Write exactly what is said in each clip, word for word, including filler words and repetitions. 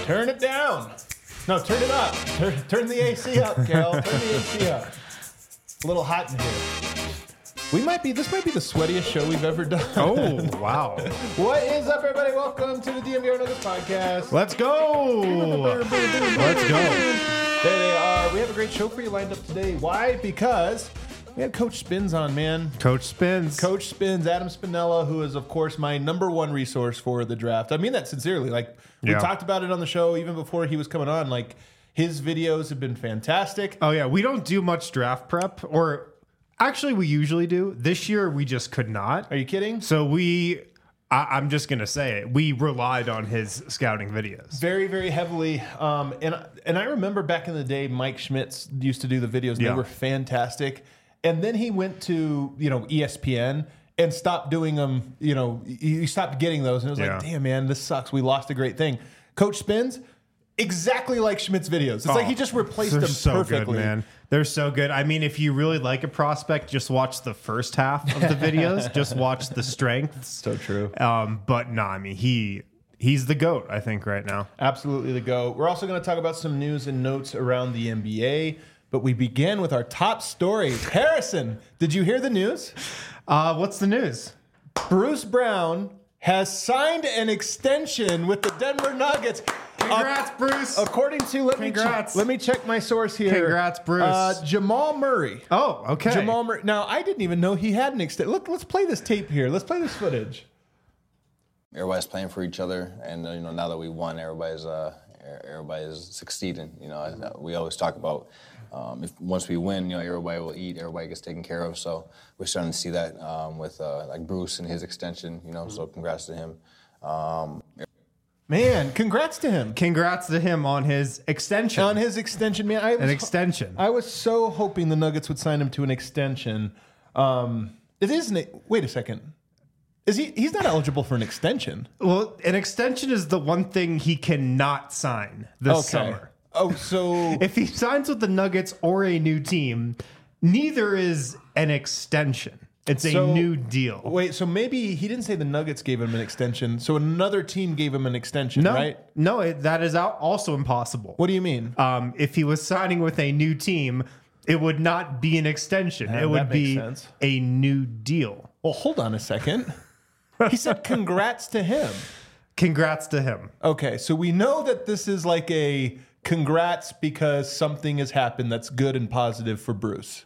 Turn it down. No, turn it up. Turn, turn the A C up, Cal. Turn the A C up. A little hot in here. We might be, this might be the sweatiest show we've ever done. Oh, wow. What is up, everybody? Welcome to the D M V R Nuggets podcast. Let's go. Let's go. There they are. We have a great show for you lined up today. Why? Because we have Coach Spins on, man. Coach Spins. Coach Spins, Adam Spinella, who is, of course, my number one resource for the draft. I mean that sincerely. Like, we Yeah. talked about it on the show even before he was coming on. Like, his videos have been fantastic. Oh, yeah. We don't do much draft prep, or actually, we usually do. This year, we just could not. Are you kidding? So we, I, I'm just going to say it. We relied on his scouting videos. Very, very heavily. Um, and, and I remember back in the day, Mike Schmitz used to do the videos. And Yeah. They were fantastic. And then he went to, you know, E S P N and stopped doing them. You know, he stopped getting those. And it was Yeah. like, damn, man, this sucks. We lost a great thing. Coach Spins, exactly like Schmidt's videos. It's like he just replaced They're them so perfectly. good, man. They're so good. I mean, if you really like a prospect, just watch the first half of the videos. Just watch the strengths. So true. Um, but no, I mean, he he's the GOAT, I think, right now. Absolutely the go. We're also going to talk about some news and notes around the N B A. But we begin with our top story. Harrison, did you hear the news? Uh, what's the news? Bruce Brown has signed an extension with the Denver Nuggets. Congrats, Uh, Bruce. According to, let Congrats. me, che- let me check my source here. Congrats, Bruce. Uh, Jamal Murray. Oh, okay. Jamal Murray. Now, I didn't even know he had an extension. Look, let's play this tape here. Let's play this footage. Everybody's playing for each other, and uh, you know, now that we won, everybody's uh, everybody's succeeding. You know, I- we always talk about um, if once we win, you know, everybody will eat, everybody gets taken care of. So we're starting to see that um, with uh, like Bruce and his extension. You know, so congrats to him. Um, Man, congrats to him. Congrats to him on his extension. On his extension, man. I was, An extension. I was so hoping the Nuggets would sign him to an extension. Um, it isn't. Wait a second. Is he? He's not eligible for an extension. Well, an extension is the one thing he cannot sign this summer. Oh, so If he signs with the Nuggets or a new team, neither is an extension. It's a So- new deal. wait. So maybe he didn't say the Nuggets gave him an extension. So another team gave him an extension, No, right? no, it, that is out also impossible. What do you mean? Um, if he was signing with a new team, it would not be an extension. Yeah, it would that makes be sense. a new deal. Well, hold on a second. He said congrats to him. Congrats to him. Okay, so we know that this is like a congrats because something has happened that's good and positive for Bruce.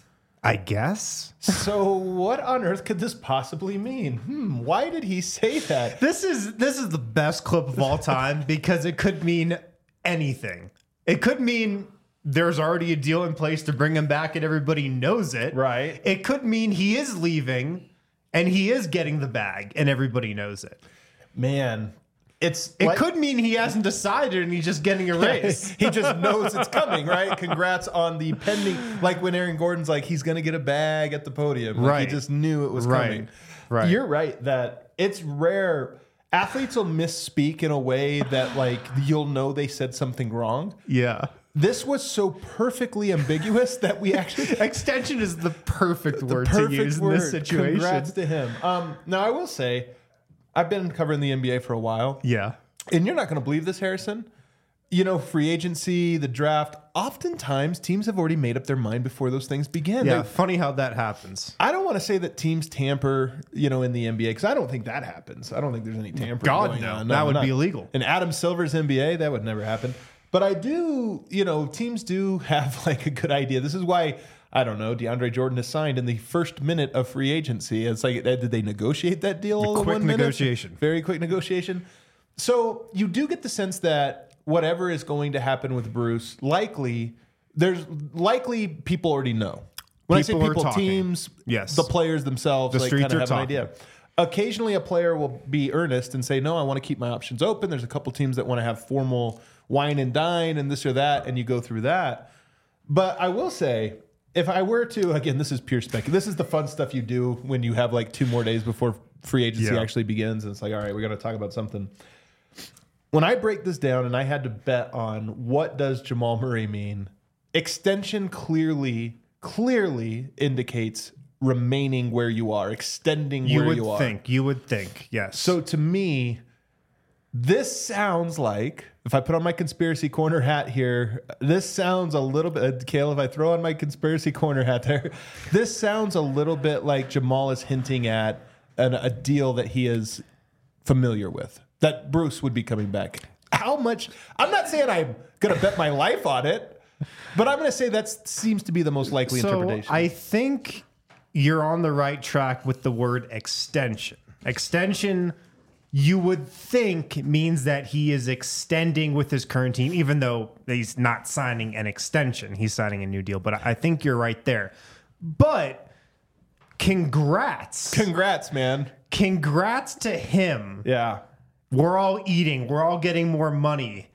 I guess. So what on earth could this possibly mean? Hmm, why did he say that? This is this is the best clip of all time because it could mean anything. It could mean there's already a deal in place to bring him back and everybody knows it. Right. It could mean he is leaving and he is getting the bag and everybody knows it. Man, it's It like- could mean he hasn't decided and he's just getting a raise. he just knows it's coming, right? Congrats on the pending, like when Aaron Gordon's like, he's going to get a bag at the podium. Like, Right. He just knew it was Right. coming. Right. You're right that it's rare. Athletes will misspeak in a way that like you'll know they said something wrong. Yeah. This was so perfectly ambiguous that we actually Extension is the perfect word perfect to use word. in this situation. Congrats to him. Um, now I will say, I've been covering the N B A for a while. Yeah. And you're not going to believe this, Harrison. You know, free agency, the draft, oftentimes teams have already made up their mind before those things begin. Yeah. They- Funny how that happens. I don't want to say that teams tamper, you know, in the N B A because I don't think that happens. I don't think there's any tampering God, going no. on. That would not- be illegal. In Adam Silver's N B A, that would never happen. But I do, you know, teams do have like a good idea. This is why, I don't know, DeAndre Jordan is signed in the first minute of free agency. It's like, did they negotiate that deal? all in quick one minute? negotiation. Very quick negotiation. So you do get the sense that whatever is going to happen with Bruce, likely, there's likely people already know. When People I are say people, talking. teams, Yes. the players themselves, The like streets kind of are have an talking. idea. Occasionally, a player will be earnest and say, "No, I want to keep my options open." There's a couple teams that want to have formal wine and dine and this or that, and you go through that. But I will say, if I were to, again, this is pure spec. This is the fun stuff you do when you have like two more days before free agency Yeah. actually begins, and it's like, all right, we got to talk about something. When I break this down, and I had to bet on what does Jamal Murray mean, extension clearly, clearly indicates remaining where you are, extending You where would you are. think. You would think. Yes. So to me, This sounds like, if I put on my conspiracy corner hat here, this sounds a little bit, Kale, if I throw on my conspiracy corner hat there, this sounds a little bit like Jamal is hinting at an, a deal that he is familiar with, that Bruce would be coming back. How much? I'm not saying I'm going to bet my life on it, but I'm going to say that seems to be the most likely So interpretation. I think you're on the right track with the word extension. Extension, you would think, means that he is extending with his current team, even though he's not signing an extension. He's signing a new deal. But I think you're right there. But congrats. Congrats, man. Congrats to him. Yeah. We're all eating. We're all getting more money.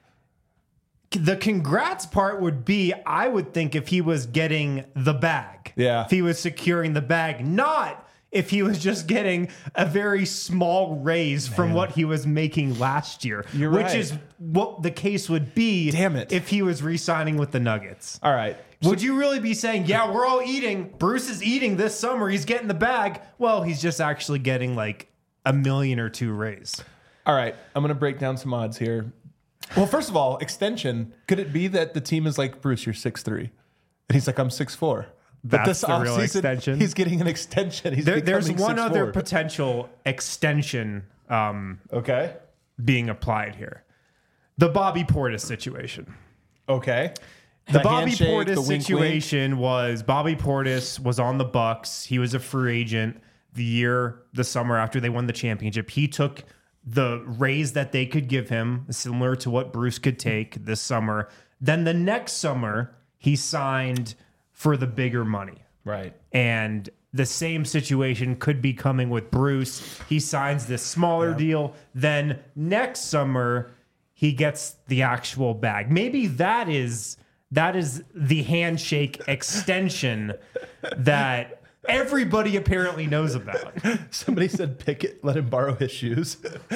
The congrats part would be, I would think, if he was getting the bag. Yeah. If he was securing the bag, not if he was just getting a very small raise from what he was making last year. You're which right. is what the case would be. Damn it. If he was re-signing with the Nuggets. All right. Would you really be saying, yeah, we're all eating. Bruce is eating this summer. He's getting the bag. Well, he's just actually getting like a million or two raise. All right, I'm going to break down some odds here. Well, first of all, extension. Could it be that the team is like, Bruce, you're six three, and he's like, I'm six four. But That's this the real offseason, extension? He's getting an extension. He's There, there's becoming one six other four. potential extension um, Okay. being applied here. The Bobby Portis situation. Okay. The, Bobby handshake, Portis the wink, situation was Bobby Portis was on the Bucks. He was a free agent the year, the summer after they won the championship. He took the raise that they could give him, similar to what Bruce could take this summer. Then the next summer, he signed for the bigger money. Right. And the same situation could be coming with Bruce. He signs this smaller deal. Then next summer, he gets the actual bag. Maybe that is that is the handshake extension that everybody apparently knows about. Somebody said Pickett, let him borrow his shoes.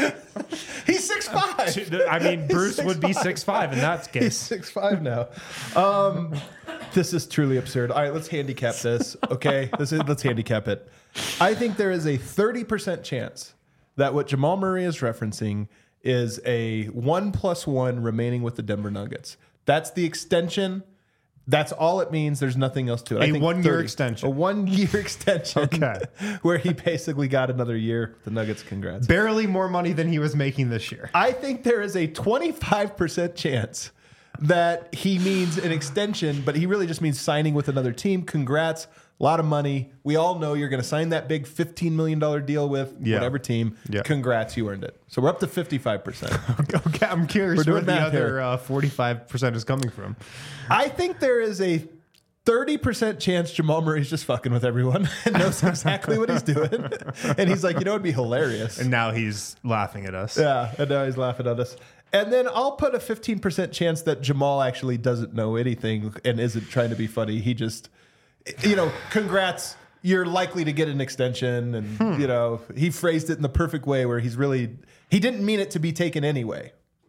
He's six five. I mean, Bruce He's would be six five. six five in that He's case. six five now. Um, this is truly absurd. All right, let's handicap this. Okay, this is let's handicap it. I think there is a thirty percent chance that what Jamal Murray is referencing is a one plus one remaining with the Denver Nuggets. That's the extension. That's all it means. There's nothing else to it. I A think one-year thirty extension. A one-year extension. Okay. Where he basically got another year. The Nuggets, congrats. Barely more money than he was making this year. I think there is a twenty-five percent chance that he means an extension, but he really just means signing with another team. Congrats. A lot of money. We all know you're going to sign that big fifteen million dollars deal with Yeah. whatever team. Yeah. Congrats, you earned it. So we're up to fifty-five percent. Okay, I'm curious We're doing where the math here. other uh, forty-five percent is coming from. I think there is a thirty percent chance Jamal Murray's just fucking with everyone and knows exactly what he's doing. And he's like, you know, it'd be hilarious. And now he's laughing at us. Yeah, and now he's laughing at us. And then I'll put a fifteen percent chance that Jamal actually doesn't know anything and isn't trying to be funny. He just, you know, congrats. You're likely to get an extension. And, Hmm. you know, he phrased it in the perfect way where he's really, he didn't mean it to be taken anyway.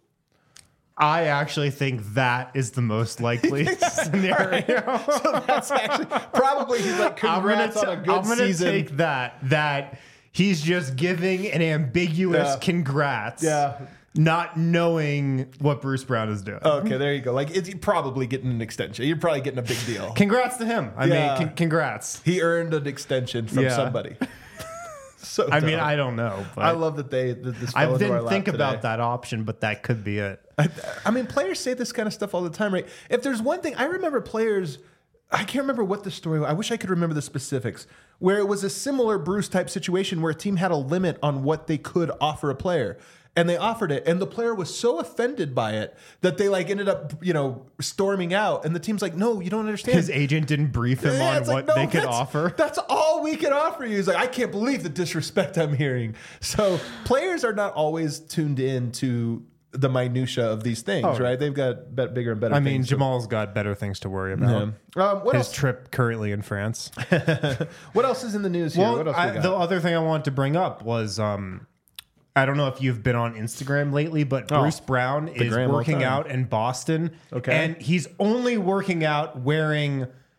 I actually think that is the most likely scenario. So that's actually, probably he's like, congrats I'm gonna, on a t- good I'm gonna season. take that, that he's just giving an ambiguous Yeah. congrats. Yeah. Not knowing what Bruce Brown is doing. Okay, there you go. Like, it's, you're probably getting an extension. You're probably getting a big deal. Congrats to him. I Yeah. mean, con- congrats. He earned an extension from Yeah. somebody. So I mean, dumb. I don't know. But I love that they that this I fell into our didn't lap think today. about that option, but that could be it. I, I mean, players say this kind of stuff all the time, right? If there's one thing, I remember players, I can't remember what the story was. I wish I could remember the specifics, where it was a similar Bruce type situation where a team had a limit on what they could offer a player. And they offered it, and the player was so offended by it that they like ended up, you know, storming out. And the team's like, "No, you don't understand." His agent didn't brief him Yeah, on it's like, what no, they could that's- offer. That's all we can offer you. He's like, I can't believe the disrespect I'm hearing. So players are not always tuned in to the minutia of these things, Oh. right? They've got bet- bigger and better I mean, things. Jamal's got better things to worry about. Yeah. Um, what His else? trip currently in France. What else is in the news here? Well, what else I, we got? the other thing I wanted to bring up was um, I don't know if you've been on Instagram lately, but Oh, Bruce Brown is gram all the working time. out in Boston. Okay. And he's only working out wearing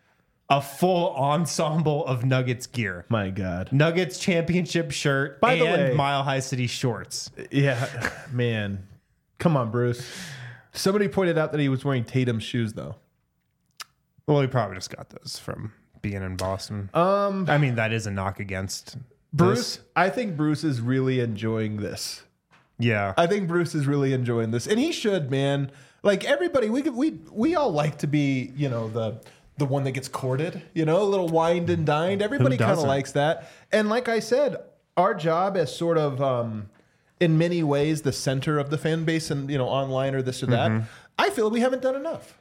a full ensemble of Nuggets gear. My God. Nuggets championship shirt By and the way- Mile High City shorts. Yeah, man. Come on, Bruce. Somebody pointed out that he was wearing Tatum's shoes, though. Well, he probably just got those from being in Boston. Um, I mean, that is a knock against Bruce, this. I think Bruce is really enjoying this. Yeah. I think Bruce is really enjoying this, and he should, man. Like everybody, we we we all like to be, you know, the the one that gets courted, you know, a little wined and dined. Everybody kind of doesn't? likes that. And like I said, our job as sort of, um, in many ways, the center of the fan base, and you know, online or this or that. Mm-hmm. I feel we haven't done enough.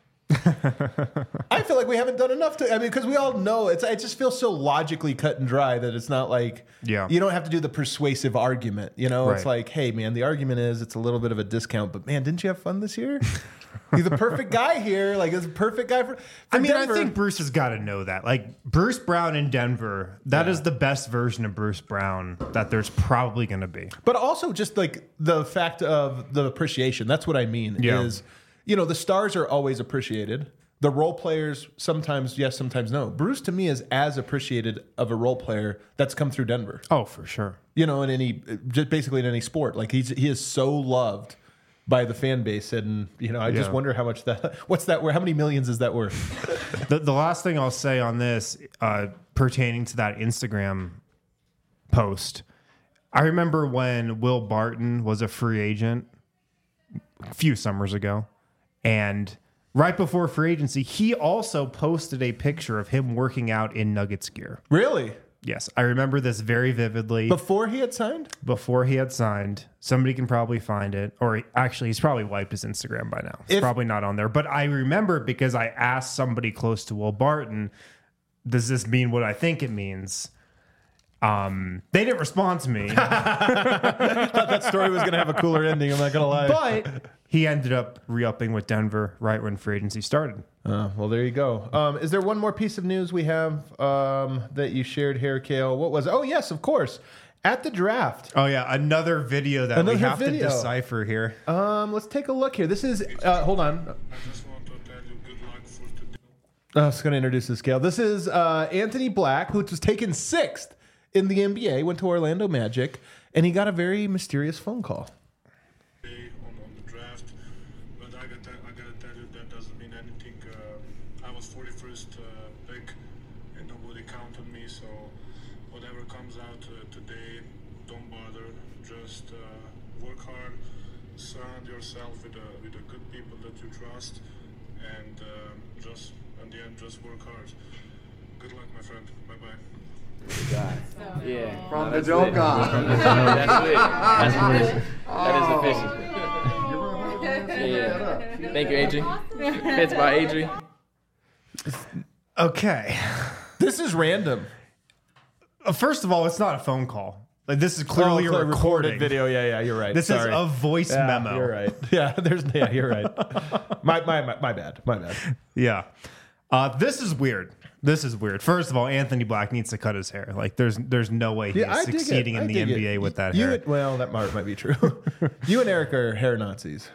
I feel like we haven't done enough to. I mean, because we all know it's. It just feels so logically cut and dry that it's not like. Yeah. You don't have to do the persuasive argument. You know, it's Right. like, hey, man, the argument is it's a little bit of a discount, but man, didn't you have fun this year? You're the perfect guy here. Like, it's a perfect guy for. for I mean, Denver. I think Bruce has got to know that. Like, Bruce Brown in Denver, that is the best version of Bruce Brown that there's probably going to be. But also just like the fact of the appreciation. That's what I mean. Yeah. Is, you know, the stars are always appreciated. The role players sometimes yes, sometimes no. Bruce to me is as appreciated of a role player that's come through Denver. Oh, for sure. You know, in any just basically in any sport. Like he's he is so loved by the fan base, and you know, I just Yeah. wonder how much that what's that worth? How many millions is that worth? The, the last thing I'll say on this, uh, pertaining to that Instagram post, I remember when Will Barton was a free agent a few summers ago, and right before free agency, he also posted a picture of him working out in Nuggets gear. Really? Yes, I remember this very vividly. Before he had signed? Before he had signed, somebody can probably find it, or he- actually, he's probably wiped his Instagram by now. It's If- probably not on there, but I remember it because I asked somebody close to Will Barton, "Does this mean what I think it means?" Um, they didn't respond to me, That story was gonna have a cooler ending, I'm not gonna lie. but he ended up re-upping with Denver right when free agency started. Uh, well, there you go. Um, is there one more piece of news we have um, that you shared here, Kale? What was it? Oh, yes, of course. At the draft. Oh yeah, another video that we Another have video. to decipher here. Um, let's take a look here. This is, uh, hold on. I just want to tell you good luck for today. I was going to introduce this, Kale. This is uh, Anthony Black, who was taken sixth in the N B A, went to Orlando Magic, and he got a very mysterious phone call. On, on the draft, but I gotta, I gotta tell you that doesn't mean anything. Uh, I was forty-first uh, pick, and nobody counted me. So whatever comes out uh, today, don't bother. Just uh, work hard, surround yourself with uh, with the good people that you trust, and uh, just in the end, just work hard. Good luck, my friend. Bye bye. Yeah. From No, the that's Joker. lit. That's lit. That's lit. That is official. Yeah. Thank you, Adri. Fits by Adri. Okay. This is random. Uh, First of all, it's not a phone call. Like this is clearly Oh, a clear- recording. recorded video. Yeah, yeah, you're right. This Sorry. is a voice Yeah, memo. You're right. Yeah, there's yeah, you're right. my, my my my bad. My bad. Yeah. Uh, this is weird. This is weird. First of all, Anthony Black needs to cut his hair. Like, there's there's no way he's Yeah, I dig it. succeeding I in the dig N B A it. with that you, hair. and- well, that might, might be true. You and Eric are hair Nazis.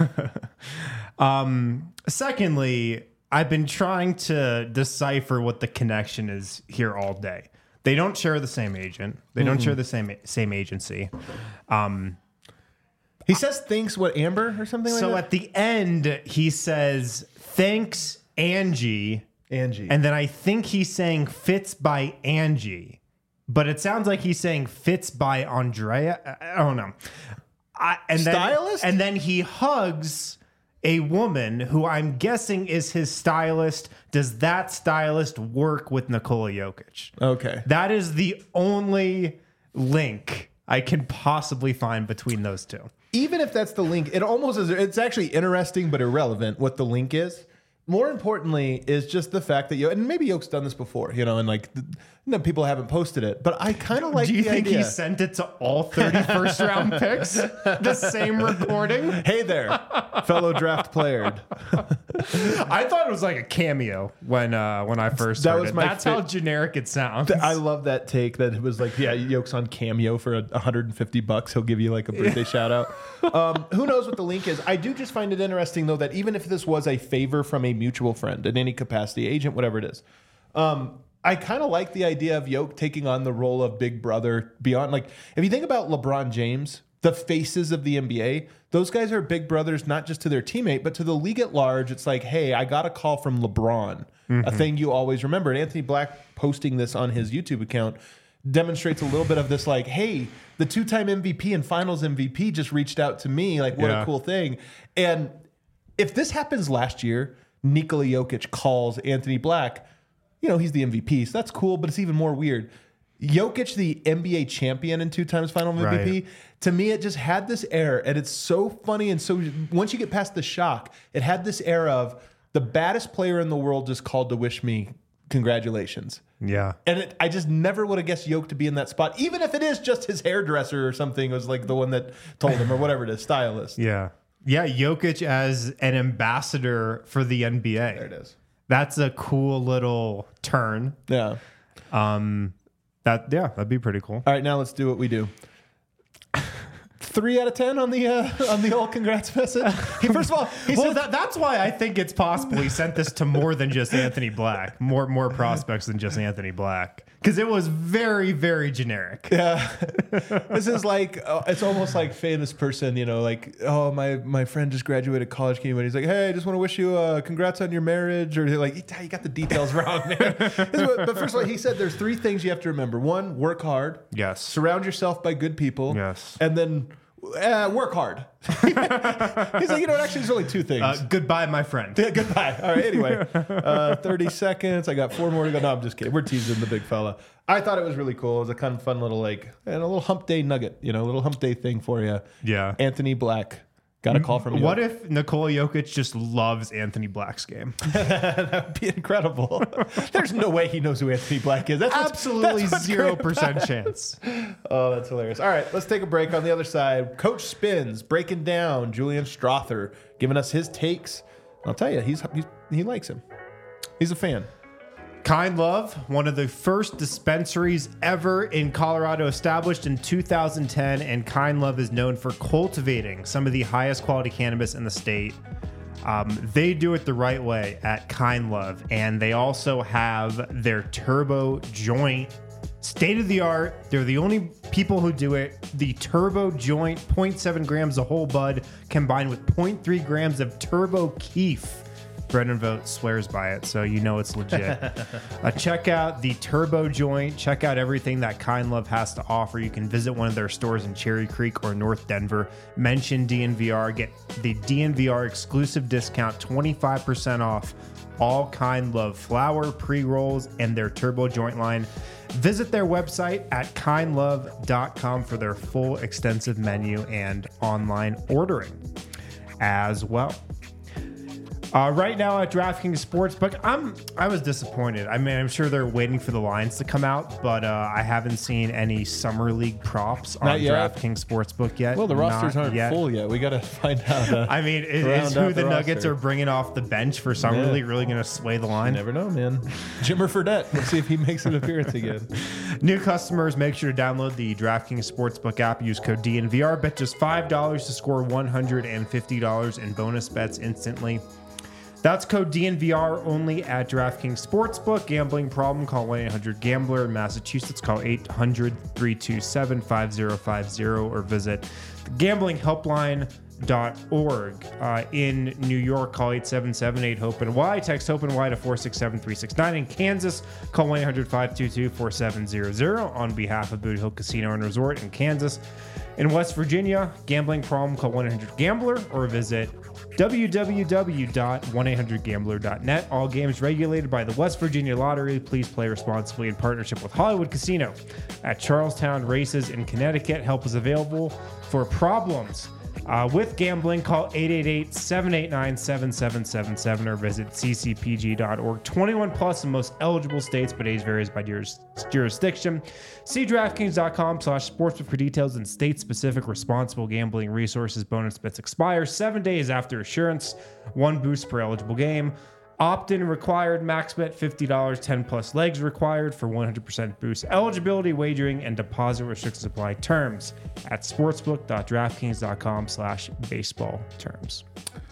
Um, secondly, I've been trying to decipher what the connection is here all day. They don't share the same agent. They don't share the same same agency. Um, He says thanks what Amber or something like so that. at the end, he says thanks Angie. Angie. And then I think he's saying fits by Angie, but it sounds like he's saying fits by Andrea. I I don't know. I, and Stylist? Then, and then he hugs a woman who I'm guessing is his stylist. Does that stylist work with Nikola Jokic? okay. That is the only link I can possibly find between those two. Even if that's the link, it almost is. It's actually interesting but irrelevant what the link is. More importantly, is just the fact that you and maybe Yoke's done this before, you know, and like you know, people haven't posted it, but I kind of like. Do you the think idea. he sent it to all thirty first round picks? The same recording? Hey there, fellow draft player. I thought it was like a cameo when uh, when I first That heard was it. my That's fa- how generic it sounds. I love that take that it was like, yeah, Yoke's on Cameo for a one hundred fifty bucks. He'll give you like a birthday shout out. Um, who knows what the link is? I do just find it interesting though that even if this was a favor from a mutual friend in any capacity, agent, whatever it is, Um, I kind of like the idea of Yoke taking on the role of big brother beyond. Like, if you think about LeBron James, the faces of the N B A, those guys are big brothers, not just to their teammate, but to the league at large. It's like, hey, I got a call from LeBron, mm-hmm. a thing you always remember. And Anthony Black posting this on his YouTube account demonstrates a little bit of this, like, hey, the two-time M V P and finals M V P just reached out to me. Like, what yeah. a cool thing. And if this happens last year, Nikola Jokic calls Anthony Black, you know, he's the M V P, so that's cool, but it's even more weird. Jokic, the N B A champion and two times final M V P, right. to me, it just had this air, and it's so funny. And so once you get past the shock, it had this air of the baddest player in the world just called to wish me congratulations. Yeah. And it, I just never would have guessed Yoke to be in that spot, even if it is just his hairdresser or something was like the one that told him, or whatever it is, stylist. Yeah. Yeah, Jokic as an ambassador for the N B A. There it is. That's a cool little turn. Yeah. Um, that yeah, that'd be pretty cool. All right, now let's do what we do. Three out of ten on the uh, on the old congrats message. He, first of all, he well, said, that, that's why I think it's possible he sent this to more than just Anthony Black, more more prospects than just Anthony Black, because it was very very generic. Yeah, this is like uh, it's almost like famous person, you know, like, oh, my my friend just graduated college, came in, he's like, hey, I just want to wish you uh, congrats on your marriage, or like, you got the details wrong, man. But first of all, he said there's three things you have to remember. One, work hard. Yes. Surround yourself by good people. Yes. And then Uh, work hard. He's like, you know, actually, there's only two things. Uh, goodbye, my friend. Yeah, goodbye. All right. Anyway, uh, thirty seconds. I got four more to go. No, I'm just kidding. We're teasing the big fella. I thought it was really cool. It was a kind of fun little, like, and a little hump day nugget, you know, a little hump day thing for you. Yeah. Anthony Black got a call from you. What if Nikola Jokic just loves Anthony Black's game? That would be incredible. There's no way he knows who Anthony Black is. That's absolutely zero percent chance. Oh, that's hilarious. All right, let's take a break. On the other side, Coach Spins breaking down Julian Strother, giving us his takes. I'll tell you, he's, he's he likes him. He's a fan. Kind Love, one of the first dispensaries ever in Colorado, established in two thousand ten, and Kind Love is known for cultivating some of the highest quality cannabis in the state. Um, they do it the right way at Kind Love, and they also have their Turbo Joint, state of the art. They're the only people who do it. The Turbo Joint, zero point seven grams of whole bud combined with zero point three grams of Turbo Keef. Brendan Vogt swears by it, so you know it's legit. uh, check out the Turbo Joint. Check out everything that Kind Love has to offer. You can visit one of their stores in Cherry Creek or North Denver. Mention D N V R. Get the D N V R exclusive discount, twenty-five percent off all Kind Love flower, pre-rolls, and their Turbo Joint line. Visit their website at kind love dot com for their full extensive menu and online ordering as well. Uh, right now at DraftKings Sportsbook, I'm I was disappointed. I mean, I'm sure they're waiting for the lines to come out, but uh, I haven't seen any summer league props on DraftKings Sportsbook yet. Well, the rosters Not aren't yet. full yet. We got to find out. Uh, I mean, is, is who the, the Nuggets are bringing off the bench for summer yeah. league really going to sway the line? You never know, man. Jimmer Fredette. Let's see if he makes an appearance again. New customers, make sure to download the DraftKings Sportsbook app. Use code D N V R. Bet just five dollars to score one hundred fifty dollars in bonus bets instantly. That's code D N V R only at DraftKings Sportsbook. Gambling problem? Call one eight hundred gambler. In Massachusetts, call eight hundred, three two seven, five zero five zero or visit gambling helpline dot org. Uh, in New York, call eight seven seven eight hope N Y. Text hope N Y to four six seven three six nine. In Kansas, call one eight hundred, five two two, four seven zero zero on behalf of Boot Hill Casino and Resort in Kansas. In West Virginia, gambling problem? Call one eight hundred gambler or visit w w w dot one eight hundred gambler dot net. All games regulated by the West Virginia Lottery. Please play responsibly in partnership with Hollywood Casino at Charlestown Races in Connecticut. Help is available for problems uh, with gambling. Call eight eight eight, seven eight nine, seven seven seven seven or visit c c p g dot org. twenty-one plus in most eligible states, but age varies by juris- jurisdiction. See DraftKings dot com slash sportsbook for details and state-specific responsible gambling resources. Bonus bets expire seven days after issuance. One boost per eligible game. Opt-in required. Max bet fifty dollars. ten plus legs required for one hundred percent boost. Eligibility, wagering, and deposit restrictions apply. Terms at sportsbook dot draftkings dot com slash baseball terms.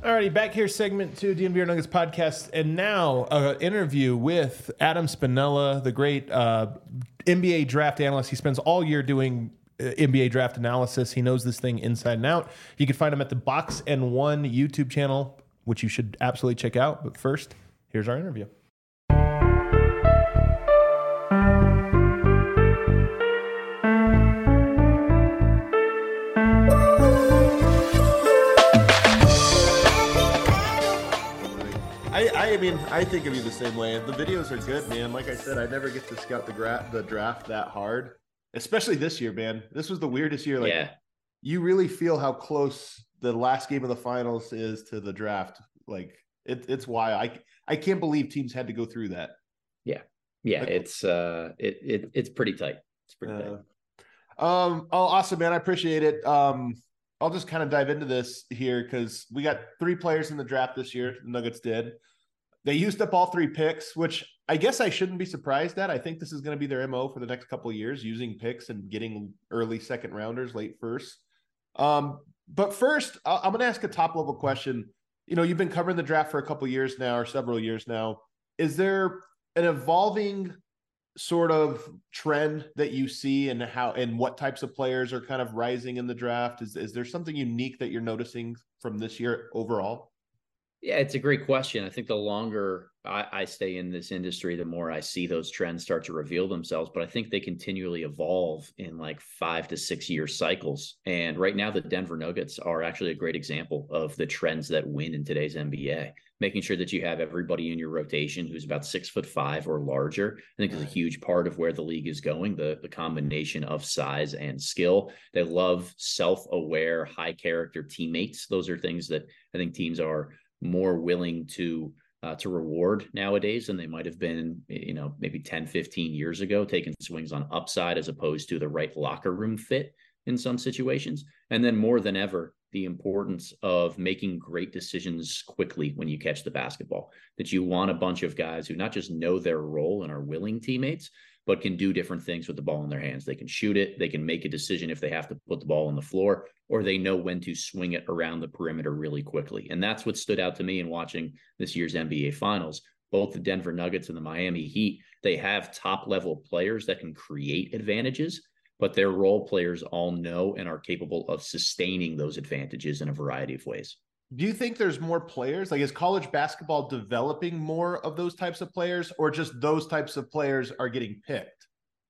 Alrighty, back here, segment two, D N V R Nuggets podcast, and now an interview with Adam Spinella, the great uh, N B A draft analyst. He spends all year doing uh, N B A draft analysis. He knows this thing inside and out. You can find him at the Box and One YouTube channel, which you should absolutely check out. But first, here's our interview. I, I mean, I think of you the same way. The videos are good, man. Like I said, I never get to scout the gra- the draft that hard, especially this year, man. This was the weirdest year. Like, yeah. You really feel how close the last game of the finals is to the draft. Like, it, it's wild. I I can't believe teams had to go through that. Yeah, yeah. Like, it's uh, it it it's pretty tight. It's pretty uh, tight. Um. Oh, awesome, man. I appreciate it. Um. I'll just kind of dive into this here because we got three players in the draft this year. The Nuggets did. They used up all three picks, which I guess I shouldn't be surprised at. I think this is going to be their M O for the next couple of years, using picks and getting early second rounders, late first. Um, but first, I'm going to ask a top level question. You know, you've been covering the draft for a couple of years now, or several years now. Is there an evolving sort of trend that you see, and how and what types of players are kind of rising in the draft? Is is there something unique that you're noticing from this year overall? Yeah, it's a great question. I think the longer I, I stay in this industry, the more I see those trends start to reveal themselves. But I think they continually evolve in like five to six year cycles. And right now, the Denver Nuggets are actually a great example of the trends that win in today's N B A. Making sure that you have everybody in your rotation who's about six foot five or larger, I think is a huge part of where the league is going. The, the combination of size and skill. They love self-aware, high character teammates. Those are things that I think teams are more willing to uh, to reward nowadays than they might have been, you know, maybe ten, fifteen years ago, taking swings on upside as opposed to the right locker room fit in some situations. And then more than ever, the importance of making great decisions quickly when you catch the basketball, that you want a bunch of guys who not just know their role and are willing teammates, but can do different things with the ball in their hands. They can shoot it. They can make a decision if they have to put the ball on the floor, or they know when to swing it around the perimeter really quickly. And that's what stood out to me in watching this year's N B A Finals. Both the Denver Nuggets and the Miami Heat, they have top-level players that can create advantages, but their role players all know and are capable of sustaining those advantages in a variety of ways. Do you think there's more players? Like, is college basketball developing more of those types of players, or just those types of players are getting picked?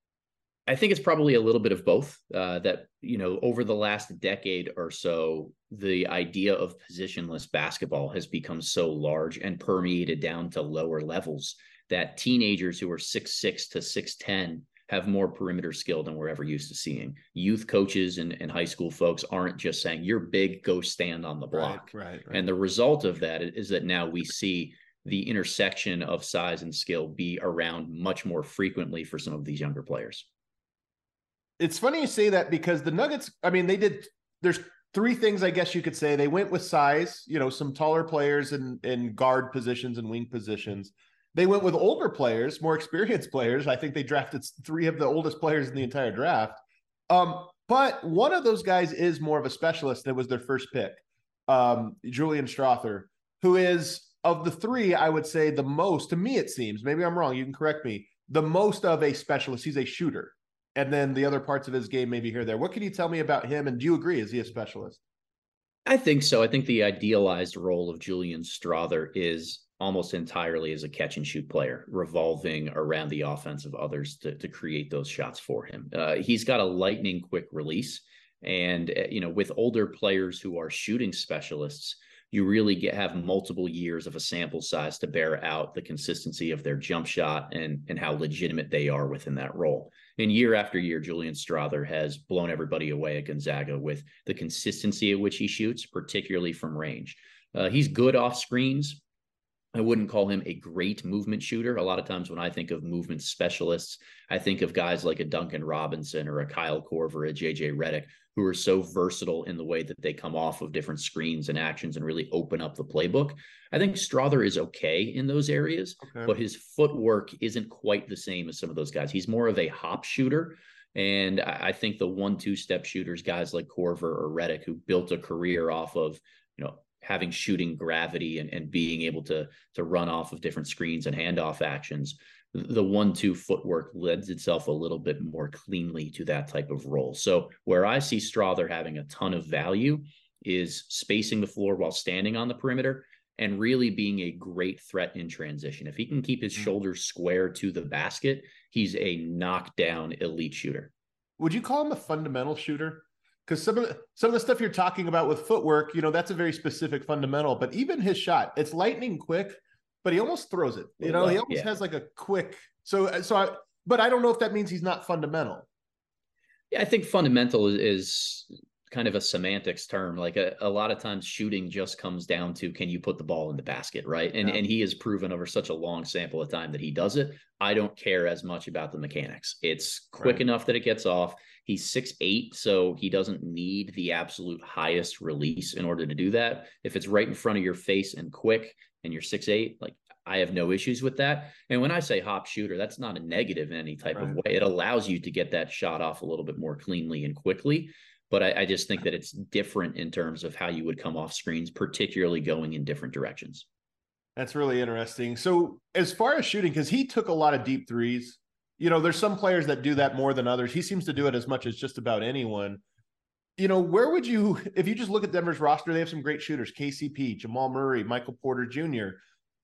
I think it's probably a little bit of both. Uh, that, you know, over the last decade or so, the idea of positionless basketball has become so large and permeated down to lower levels that teenagers who are six six to six ten have more perimeter skill than we're ever used to seeing. Youth coaches and, and high school folks aren't just saying, you're big, go stand on the block. Right, right, right. And the result of that is that now we see the intersection of size and skill be around much more frequently for some of these younger players. It's funny you say that, because the Nuggets, I mean, they did, there's three things I guess you could say. They went with size, you know, some taller players in, in guard positions and wing positions. They went with older players, more experienced players. I think they drafted three of the oldest players in the entire draft. Um, but one of those guys is more of a specialist. That was their first pick, um, Julian Strawther, who is, of the three, I would say the most, to me it seems, maybe I'm wrong, you can correct me, the most of a specialist. He's a shooter. And then the other parts of his game, maybe here or there. What can you tell me about him? And do you agree? Is he a specialist? I think so. I think the idealized role of Julian Strawther is almost entirely as a catch and shoot player, revolving around the offense of others to, to create those shots for him. Uh, he's got a lightning quick release. And, uh, you know, with older players who are shooting specialists, you really get have multiple years of a sample size to bear out the consistency of their jump shot and, and how legitimate they are within that role. And year after year, Julian Strawther has blown everybody away at Gonzaga with the consistency at which he shoots, particularly from range. Uh, he's good off screens. I wouldn't call him a great movement shooter. A lot of times when I think of movement specialists, I think of guys like a Duncan Robinson or a Kyle Korver, a J J Redick, who are so versatile in the way that they come off of different screens and actions and really open up the playbook. I think Strawther is okay in those areas, okay, but his footwork isn't quite the same as some of those guys. He's more of a hop shooter. And I think the one, two step shooters, guys like Korver or Redick, who built a career off of, you know, having shooting gravity and, and being able to, to run off of different screens and handoff actions, the one two footwork lends itself a little bit more cleanly to that type of role. So where I see Strawther having a ton of value is spacing the floor while standing on the perimeter and really being a great threat in transition. If he can keep his shoulders square to the basket, he's a knockdown elite shooter. Would you call him a fundamental shooter? Because some of the, some of the stuff you're talking about with footwork, you know, that's a very specific fundamental. But even his shot, it's lightning quick, but he almost throws it. You know, he almost yeah. has like a quick. So, so I. But I don't know if that means he's not fundamental. Yeah, I think fundamental is, is kind of a semantics term. Like a, a lot of times, shooting just comes down to can you put the ball in the basket, right? And yeah. and he has proven over such a long sample of time that he does it. I don't care as much about the mechanics. It's quick right. enough that it gets off. He's six eight, so he doesn't need the absolute highest release in order to do that. If it's right in front of your face and quick and you're six eight, like I have no issues with that. And when I say hop shooter, that's not a negative in any type right. of way. It allows you to get that shot off a little bit more cleanly and quickly. But I, I just think that it's different in terms of how you would come off screens, particularly going in different directions. That's really interesting. So as far as shooting, because he took a lot of deep threes, you know, there's some players that do that more than others. He seems to do it as much as just about anyone. You know, where would you, if you just look at Denver's roster, they have some great shooters, K C P, Jamal Murray, Michael Porter Junior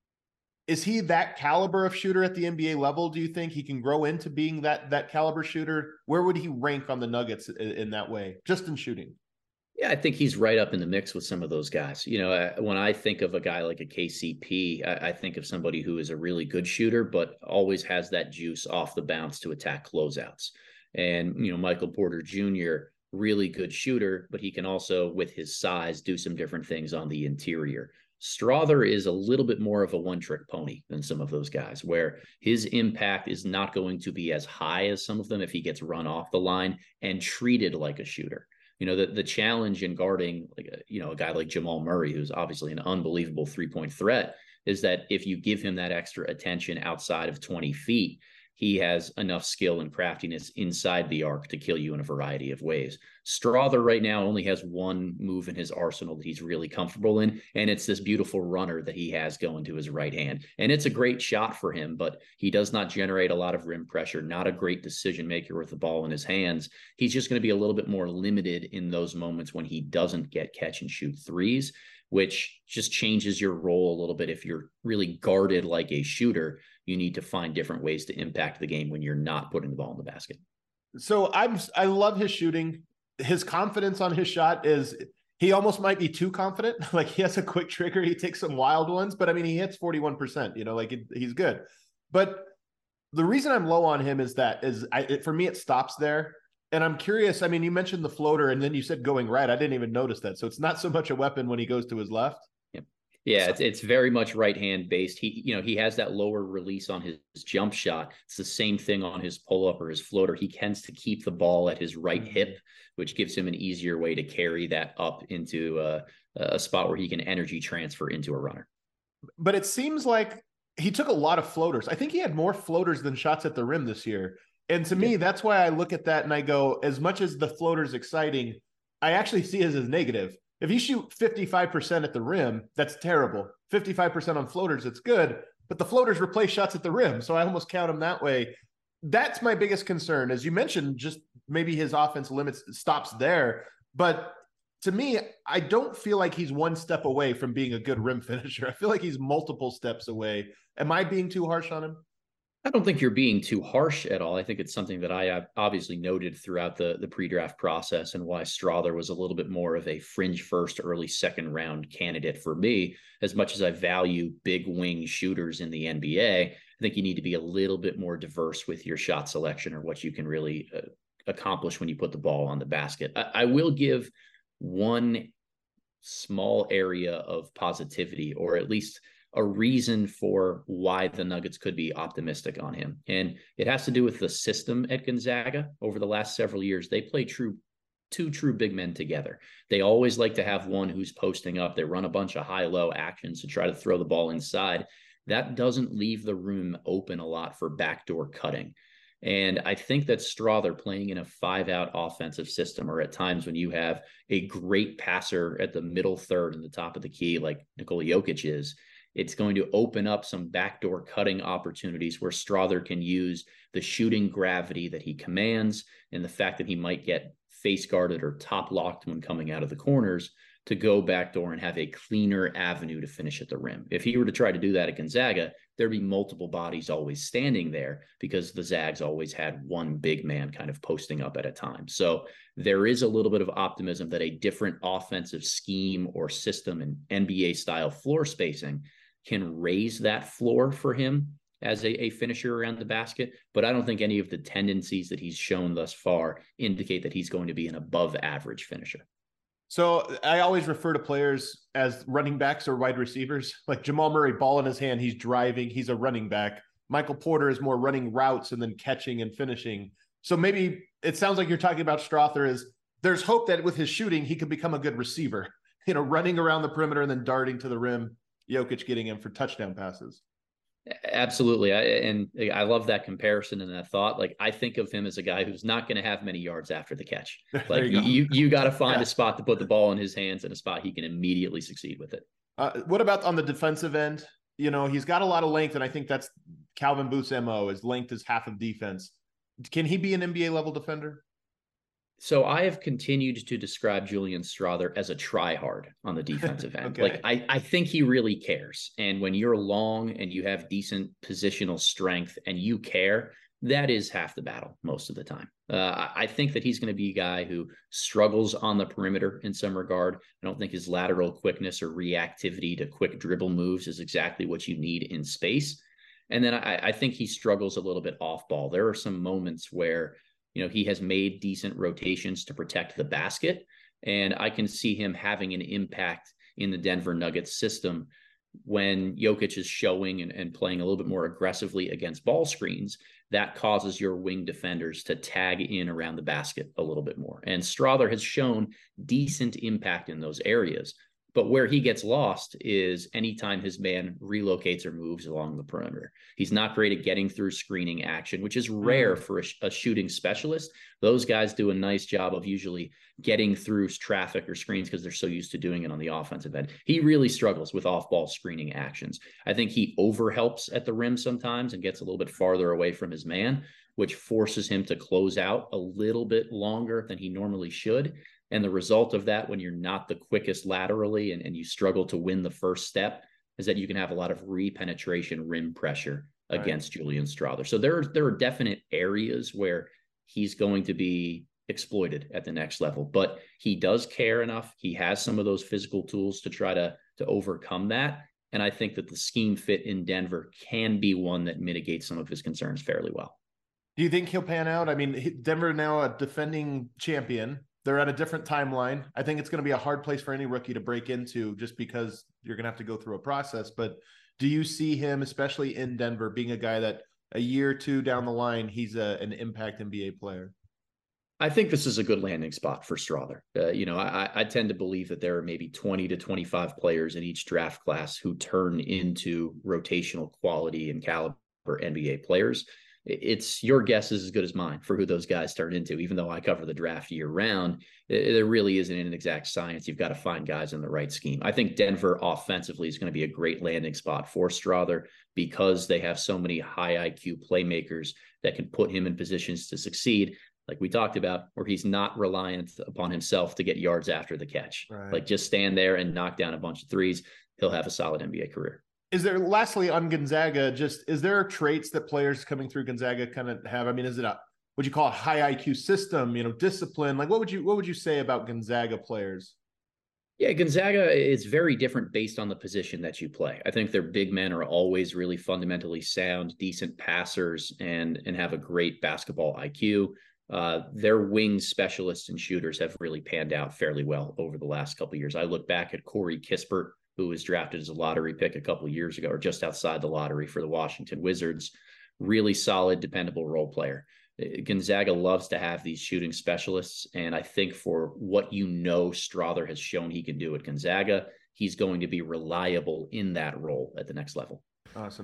Is he that caliber of shooter at the N B A level? Do you think he can grow into being that that caliber shooter? Where would he rank on the Nuggets in, in that way, just in shooting? Yeah, I think he's right up in the mix with some of those guys. You know, when I think of a guy like a K C P, I, I think of somebody who is a really good shooter, but always has that juice off the bounce to attack closeouts. And, you know, Michael Porter Junior, really good shooter, but he can also, with his size, do some different things on the interior. Strawther is a little bit more of a one-trick pony than some of those guys, where his impact is not going to be as high as some of them if he gets run off the line and treated like a shooter. You know, the, the challenge in guarding, like a, you know, a guy like Jamal Murray, who's obviously an unbelievable three-point threat, is that if you give him that extra attention outside of twenty feet, he has enough skill and craftiness inside the arc to kill you in a variety of ways. Strawther right now only has one move in his arsenal that he's really comfortable in, and it's this beautiful runner that he has going to his right hand. And it's a great shot for him, but he does not generate a lot of rim pressure, not a great decision maker with the ball in his hands. He's just going to be a little bit more limited in those moments when he doesn't get catch and shoot threes, which just changes your role a little bit. If you're really guarded like a shooter, you need to find different ways to impact the game when you're not putting the ball in the basket. So I'm, I love his shooting. His confidence on his shot is, he almost might be too confident. Like he has a quick trigger. He takes some wild ones, but I mean, he hits forty-one percent, you know, like it, he's good. But the reason I'm low on him is that is I, it, for me, it stops there. And I'm curious. I mean, you mentioned the floater and then you said going right. I didn't even notice that. So it's not so much a weapon when he goes to his left. Yeah, it's it's very much right hand based. He, you know, he has that lower release on his, his jump shot. It's the same thing on his pull up or his floater. He tends to keep the ball at his right hip, which gives him an easier way to carry that up into a, a spot where he can energy transfer into a runner. But it seems like he took a lot of floaters. I think he had more floaters than shots at the rim this year. And to yeah. me, that's why I look at that and I go, as much as the floater's exciting, I actually see it as negative. If you shoot fifty-five percent at the rim, that's terrible. fifty-five percent on floaters, it's good. But the floaters replace shots at the rim. So I almost count them that way. That's my biggest concern. As you mentioned, just maybe his offense limits stops there. But to me, I don't feel like he's one step away from being a good rim finisher. I feel like he's multiple steps away. Am I being too harsh on him? I don't think you're being too harsh at all. I think it's something that I obviously noted throughout the, the pre-draft process and why Strawther was a little bit more of a fringe first, early second round candidate for me. As much as I value big wing shooters in the N B A, I think you need to be a little bit more diverse with your shot selection or what you can really uh, accomplish when you put the ball on the basket. I, I will give one small area of positivity, or at least a reason for why the Nuggets could be optimistic on him. And it has to do with the system at Gonzaga. Over the last several years, they play true two true big men together. They always like to have one who's posting up. They run a bunch of high-low actions to try to throw the ball inside. That doesn't leave the room open a lot for backdoor cutting. And I think that Strawther playing in a five-out offensive system, or at times when you have a great passer at the middle third and the top of the key, like Nikola Jokic is, it's going to open up some backdoor cutting opportunities where Strawther can use the shooting gravity that he commands and the fact that he might get face guarded or top locked when coming out of the corners to go backdoor and have a cleaner avenue to finish at the rim. If he were to try to do that at Gonzaga, there'd be multiple bodies always standing there because the Zags always had one big man kind of posting up at a time. So there is a little bit of optimism that a different offensive scheme or system and N B A style floor spacing can raise that floor for him as a, a finisher around the basket. But I don't think any of the tendencies that he's shown thus far indicate that he's going to be an above average finisher. So I always refer to players as running backs or wide receivers. Like Jamal Murray, ball in his hand, he's driving, he's a running back. Michael Porter is more running routes and then catching and finishing. So maybe it sounds like you're talking about Strawther as there's hope that with his shooting, he could become a good receiver, you know, running around the perimeter and then darting to the rim, Jokic getting him for touchdown passes. Absolutely. I, and I love that comparison and that thought. Like, I think of him as a guy who's not going to have many yards after the catch. Like you, you, you got to find yeah. a spot to put the ball in his hands and a spot he can immediately succeed with it. Uh, what about on the defensive end? You know, he's got a lot of length, and I think that's Calvin Booth's M O, is length is half of defense. Can he be an N B A level defender? So I have continued to describe Julian Strawther as a try-hard on the defensive end. okay. Like I, I think he really cares. And when you're long and you have decent positional strength and you care, that is half the battle most of the time. Uh, I think that he's going to be a guy who struggles on the perimeter in some regard. I don't think his lateral quickness or reactivity to quick dribble moves is exactly what you need in space. And then I, I think he struggles a little bit off ball. There are some moments where you know, he has made decent rotations to protect the basket, and I can see him having an impact in the Denver Nuggets system when Jokic is showing and, and playing a little bit more aggressively against ball screens. That causes your wing defenders to tag in around the basket a little bit more. And Strawther has shown decent impact in those areas. But where he gets lost is anytime his man relocates or moves along the perimeter. He's not great at getting through screening action, which is rare for a, a shooting specialist. Those guys do a nice job of usually getting through traffic or screens because they're so used to doing it on the offensive end. He really struggles with off-ball screening actions. I think he overhelps at the rim sometimes and gets a little bit farther away from his man, which forces him to close out a little bit longer than he normally should. And the result of that, when you're not the quickest laterally and, and you struggle to win the first step, is that you can have a lot of re-penetration rim pressure right. against Julian Strawther. So there, there are definite areas where he's going to be exploited at the next level, but he does care enough. He has some of those physical tools to try to, to overcome that. And I think that the scheme fit in Denver can be one that mitigates some of his concerns fairly well. Do you think he'll pan out? I mean, Denver now a defending champion. They're at a different timeline. I think it's going to be a hard place for any rookie to break into just because you're going to have to go through a process. But do you see him, especially in Denver, being a guy that a year or two down the line, he's a, an impact N B A player? I think this is a good landing spot for Strawther. Uh, you know, I, I tend to believe that there are maybe twenty to twenty-five players in each draft class who turn into rotational quality and caliber N B A players. It's your guess is as good as mine for who those guys turn into. Even though I cover the draft year round, there really isn't an exact science. You've got to find guys in the right scheme. I think Denver offensively is going to be a great landing spot for Strawther because they have so many high I Q playmakers that can put him in positions to succeed, like we talked about, where he's not reliant upon himself to get yards after the catch. Right. Like just stand there and knock down a bunch of threes. He'll have a solid N B A career. Is there, lastly, on Gonzaga, just, is there traits that players coming through Gonzaga kind of have? I mean, is it a, would you call it high I Q system, you know, discipline? Like, what would you, what would you say about Gonzaga players? Yeah, Gonzaga is very different based on the position that you play. I think their big men are always really fundamentally sound, decent passers, and, and have a great basketball I Q. Uh, their wing specialists and shooters have really panned out fairly well over the last couple of years. I look back at Corey Kispert, who was drafted as a lottery pick a couple of years ago, or just outside the lottery for the Washington Wizards. Really solid, dependable role player. Gonzaga loves to have these shooting specialists, and I think for what you know Strawther has shown he can do at Gonzaga, he's going to be reliable in that role at the next level. Awesome.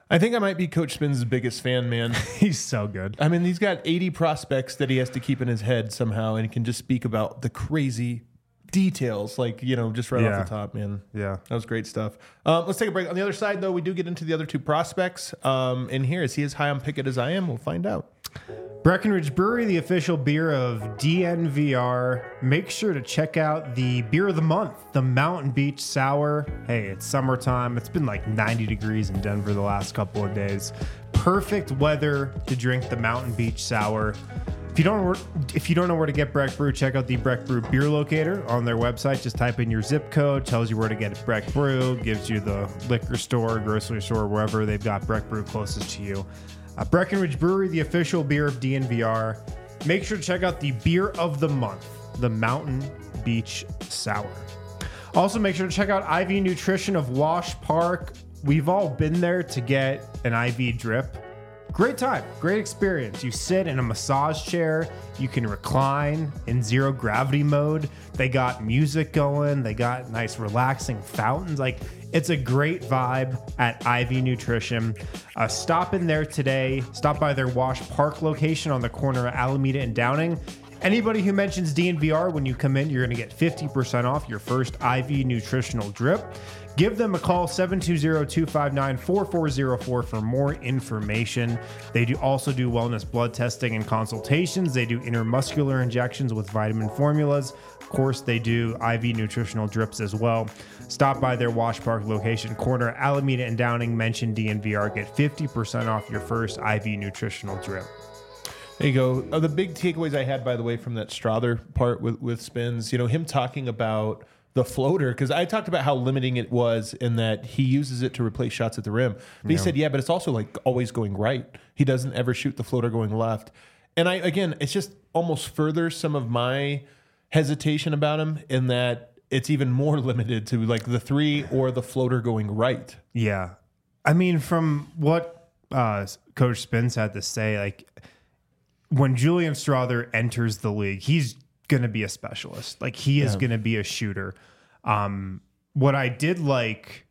I think I might be Coach Spins' biggest fan, man. He's so good. I mean, he's got eighty prospects that he has to keep in his head somehow, and he can just speak about the crazy details, like, you know, just right Yeah. off the top, man. Yeah. That was great stuff. Um, let's take a break. On the other side, though, we do get into the other two prospects. Um, and here, is he as high on Pickett as I am? We'll find out. Breckenridge Brewery, the official beer of D N V R. Make sure to check out the beer of the month, the Mountain Beach Sour. Hey, it's summertime. It's been like ninety degrees in Denver the last couple of days. Perfect weather to drink the Mountain Beach Sour. If you don't know where, if you don't know where to get Breck Brew, check out the Breck Brew beer locator on their website. Just type in your zip code, tells you where to get Breck Brew, gives you the liquor store, grocery store, wherever they've got Breck Brew closest to you. Uh, Breckenridge Brewery, the official beer of D N V R. Make sure to check out the beer of the month, the Mountain Beach Sour. Also, make sure to check out I V Nutrition of Wash Park. We've all been there to get an I V drip. Great time, great experience. You sit in a massage chair, you can recline in zero gravity mode. They got music going, they got nice relaxing fountains. Like, it's a great vibe at I V Nutrition. Uh, stop in there today. Stop by their Wash Park location on the corner of Alameda and Downing. Anybody who mentions D N V R when you come in, you're going to get fifty percent off your first I V nutritional drip. Give them a call, seven two zero, two five nine, four four zero four for more information. They do also do wellness blood testing and consultations. They do intermuscular injections with vitamin formulas. Of course, they do I V nutritional drips as well. Stop by their Wash Park location, corner Alameda and Downing. Mention D N V R. Get fifty percent off your first I V nutritional drip. There you go. Uh, the big takeaways I had, by the way, from that Strother part with, with Spins, you know, him talking about the floater, because I talked about how limiting it was in that he uses it to replace shots at the rim. But he said, yeah, but it's also like always going right. He doesn't ever shoot the floater going left. And I, again, it's just almost furthers some of my hesitation about him in that it's even more limited to like the three or the floater going right. Yeah. I mean, from what uh, Coach Spence had to say, like, when Julian Strother enters the league, he's going to be a specialist. Like, he is Yeah. going to be a shooter. Um, what I did like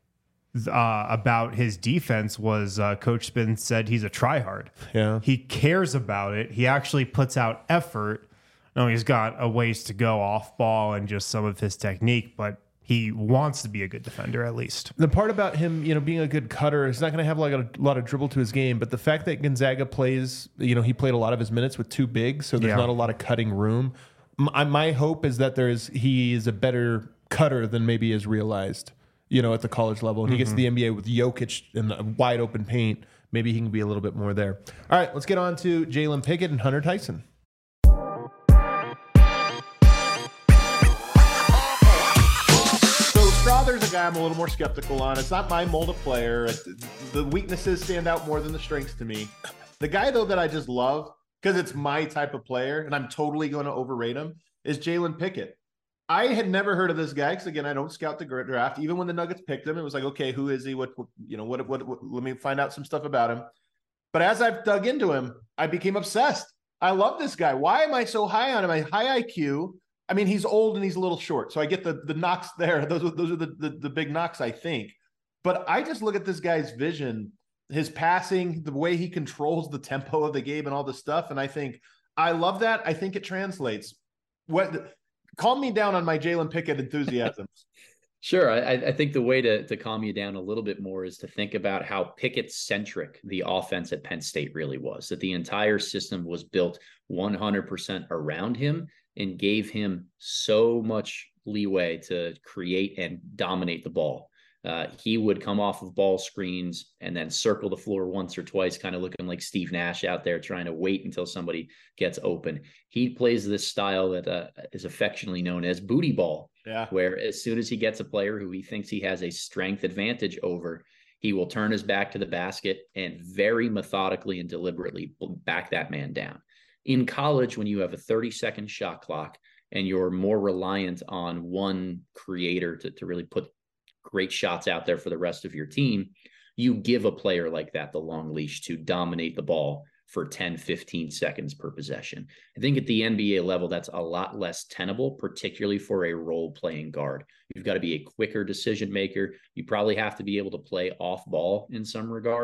uh, about his defense was uh, Coach Spence said he's a tryhard. Yeah. He cares about it. He actually puts out effort. No, he's got a ways to go off ball and just some of his technique, but he wants to be a good defender at least. The part about him, you know, being a good cutter, he's not going to have like a lot of dribble to his game, but the fact that Gonzaga plays, you know, he played a lot of his minutes with two bigs, so there's Yeah. not a lot of cutting room. My, my hope is that there's he is a better cutter than maybe is realized, you know, at the college level. And he gets to the N B A with Jokic in the wide open paint. Maybe he can be a little bit more there. All right, let's get on to Jalen Pickett and Hunter Tyson. Strother's a guy I'm a little more skeptical on. It's not my mold of player. The weaknesses stand out more than the strengths to me. The guy, though, that I just love, because it's my type of player, and I'm totally going to overrate him, is Jalen Pickett. I had never heard of this guy, because, again, I don't scout the draft. Even when the Nuggets picked him, it was like, okay, who is he? What, what you know, what, what, what, let me find out some stuff about him. But as I've dug into him, I became obsessed. I love this guy. Why am I so high on him? I high I Q. I mean, he's old and he's a little short, so I get the the knocks there. Those are those are the, the the big knocks, I think. But I just look at this guy's vision, his passing, the way he controls the tempo of the game, and all this stuff, and I think I love that. I think it translates. What? Calm me down on my Jalen Pickett enthusiasm. Sure. I, I think the way to, to calm you down a little bit more is to think about how Pickett-centric the offense at Penn State really was, that the entire system was built one hundred percent around him and gave him so much leeway to create and dominate the ball. Uh, he would come off of ball screens and then circle the floor once or twice, kind of looking like Steve Nash out there trying to wait until somebody gets open. He plays this style that uh, is affectionately known as booty ball, yeah. where as soon as he gets a player who he thinks he has a strength advantage over, he will turn his back to the basket and very methodically and deliberately back that man down. In college, when you have a thirty second shot clock and you're more reliant on one creator to, to really put great shots out there for the rest of your team, you give a player like that the long leash to dominate the ball for ten, fifteen seconds per possession. I think at the N B A level, that's a lot less tenable, particularly for a role-playing guard. You've got to be a quicker decision maker. You probably have to be able to play off ball in some regard.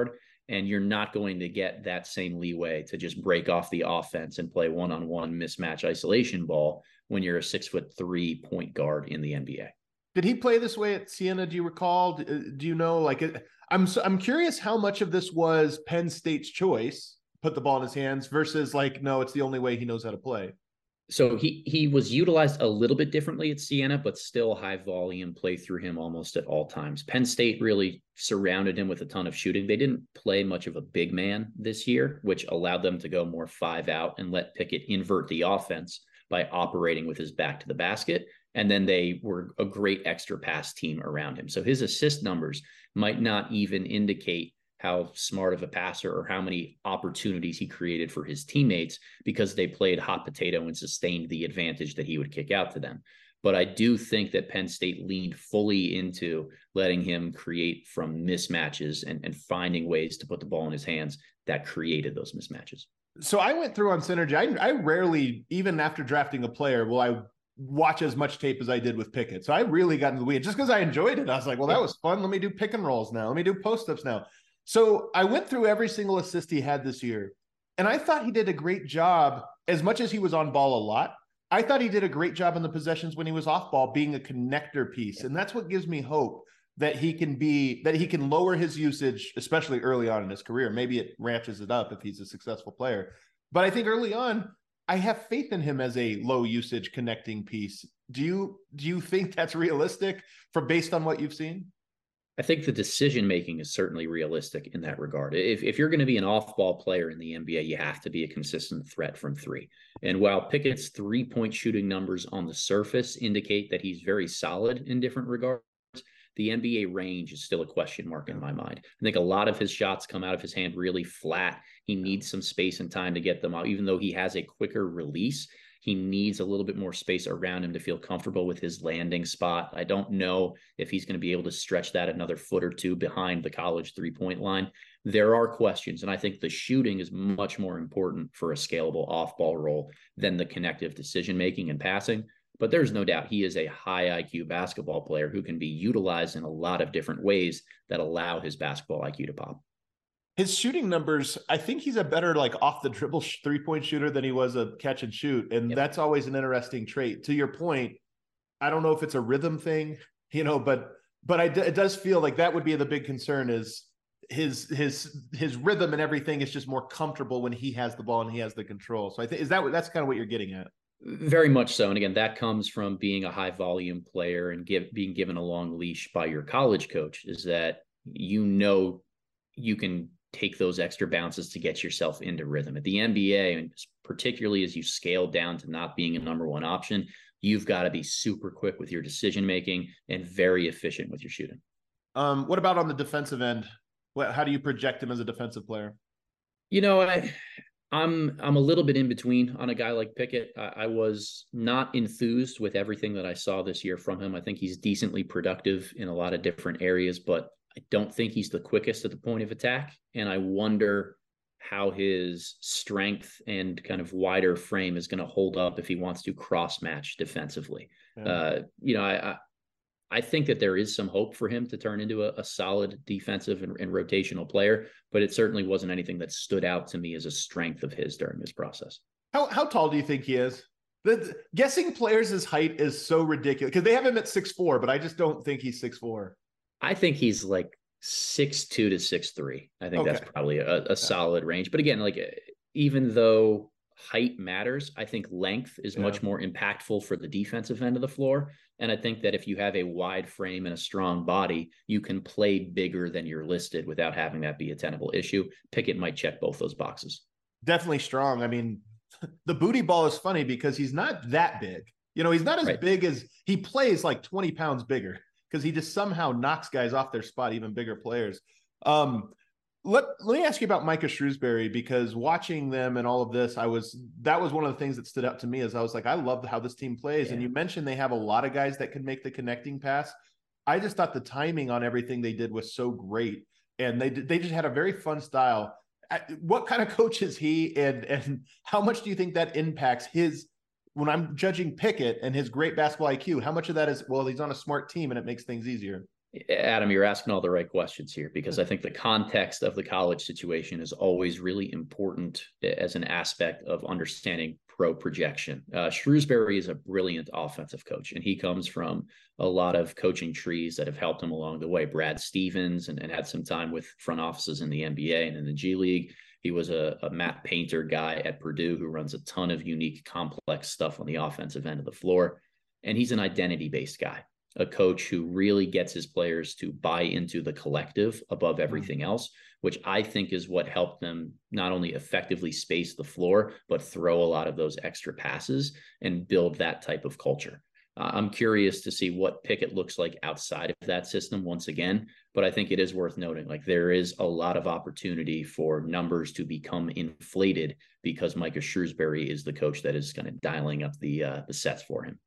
And you're not going to get that same leeway to just break off the offense and play one-on-one mismatch isolation ball when you're a six foot three point guard in the N B A. Did he play this way at Siena? Do you recall? Do you know, like, I'm, I'm curious how much of this was Penn State's choice, put the ball in his hands, versus like, no, it's the only way he knows how to play. So he he was utilized a little bit differently at Siena, but still high volume play through him almost at all times. Penn State really surrounded him with a ton of shooting. They didn't play much of a big man this year, which allowed them to go more five out and let Pickett invert the offense by operating with his back to the basket. And then they were a great extra pass team around him. So his assist numbers might not even indicate how smart of a passer or how many opportunities he created for his teammates, because they played hot potato and sustained the advantage that he would kick out to them. But I do think that Penn State leaned fully into letting him create from mismatches and, and finding ways to put the ball in his hands that created those mismatches. So I went through on Synergy. I, I rarely, even after drafting a player, will I watch as much tape as I did with Pickett. So I really got into the weeds just because I enjoyed it. I was like, well, that was fun. Let me do pick and rolls now. Let me do post-ups now. So I went through every single assist he had this year, and I thought he did a great job. As much as he was on ball a lot, I thought he did a great job in the possessions when he was off ball, being a connector piece. And that's what gives me hope that he can be, that he can lower his usage, especially early on in his career. Maybe it ratchets it up if he's a successful player. But I think early on, I have faith in him as a low usage connecting piece. Do you, do you think that's realistic for based on what you've seen? I think the decision-making is certainly realistic in that regard. If, if you're going to be an off-ball player in the N B A, you have to be a consistent threat from three. And while Pickett's three-point shooting numbers on the surface indicate that he's very solid in different regards, the N B A range is still a question mark in my mind. I think a lot of his shots come out of his hand really flat. He needs some space and time to get them out. Even though he has a quicker release, he needs a little bit more space around him to feel comfortable with his landing spot. I don't know if he's going to be able to stretch that another foot or two behind the college three-point line. There are questions, and I think the shooting is much more important for a scalable off-ball role than the connective decision-making and passing. But there's no doubt he is a high I Q basketball player who can be utilized in a lot of different ways that allow his basketball I Q to pop. His shooting numbers, I think he's a better like off the dribble three-point shooter than he was a catch and shoot. And yep. That's always an interesting trait. To your point, I don't know if it's a rhythm thing, you know, but but I, it does feel like that would be the big concern is his his his rhythm and everything is just more comfortable when he has the ball and he has the control. So I think is that that's kind of what you're getting at. Very much so. And again, that comes from being a high volume player and give, being given a long leash by your college coach, is that, you know, you can take those extra bounces to get yourself into rhythm. At the N B A, and particularly as you scale down to not being a number one option, you've got to be super quick with your decision-making and very efficient with your shooting. Um, what about on the defensive end? What, how do you project him as a defensive player? You know, I, I'm I'm a little bit in between on a guy like Pickett. I, I was not enthused with everything that I saw this year from him. I think he's decently productive in a lot of different areas, but I don't think he's the quickest at the point of attack. And I wonder how his strength and kind of wider frame is going to hold up if he wants to cross match defensively. Yeah. Uh, you know, I, I I think that there is some hope for him to turn into a, a solid defensive and, and rotational player, but it certainly wasn't anything that stood out to me as a strength of his during this process. How how tall do you think he is? The, the, guessing players' height is so ridiculous because they have him at six four, but I just don't think he's six four. I think he's like six two to six three. I think okay. That's probably a, a yeah. solid range. But again, like even though height matters, I think length is yeah. much more impactful for the defensive end of the floor. And I think that if you have a wide frame and a strong body, you can play bigger than you're listed without having that be a tenable issue. Pickett might check both those boxes. Definitely strong. I mean, the booty ball is funny because he's not that big. You know, he's not as right. big as he plays like twenty pounds bigger because he just somehow knocks guys off their spot, even bigger players. Um, Let, let me ask you about Micah Shrewsbury, because watching them and all of this, I was, that was one of the things that stood out to me as I was like, I love how this team plays. Yeah. And you mentioned they have a lot of guys that can make the connecting pass. I just thought the timing on everything they did was so great. And they they just had a very fun style. What kind of coach is he? And, and how much do you think that impacts his, when I'm judging Pickett and his great basketball I Q, how much of that is, well, he's on a smart team and it makes things easier? Adam, you're asking all the right questions here, because I think the context of the college situation is always really important as an aspect of understanding pro projection. Uh, Shrewsbury is a brilliant offensive coach, and he comes from a lot of coaching trees that have helped him along the way. Brad Stevens, and, and had some time with front offices in the N B A and in the G League. He was a, a Matt Painter guy at Purdue who runs a ton of unique, complex stuff on the offensive end of the floor. And he's an identity-based guy, a coach who really gets his players to buy into the collective above everything else, which I think is what helped them not only effectively space the floor, but throw a lot of those extra passes and build that type of culture. Uh, I'm curious to see what Pickett looks like outside of that system once again, but I think it is worth noting, like, there is a lot of opportunity for numbers to become inflated because Micah Shrewsbury is the coach that is kind of dialing up the uh, the sets for him.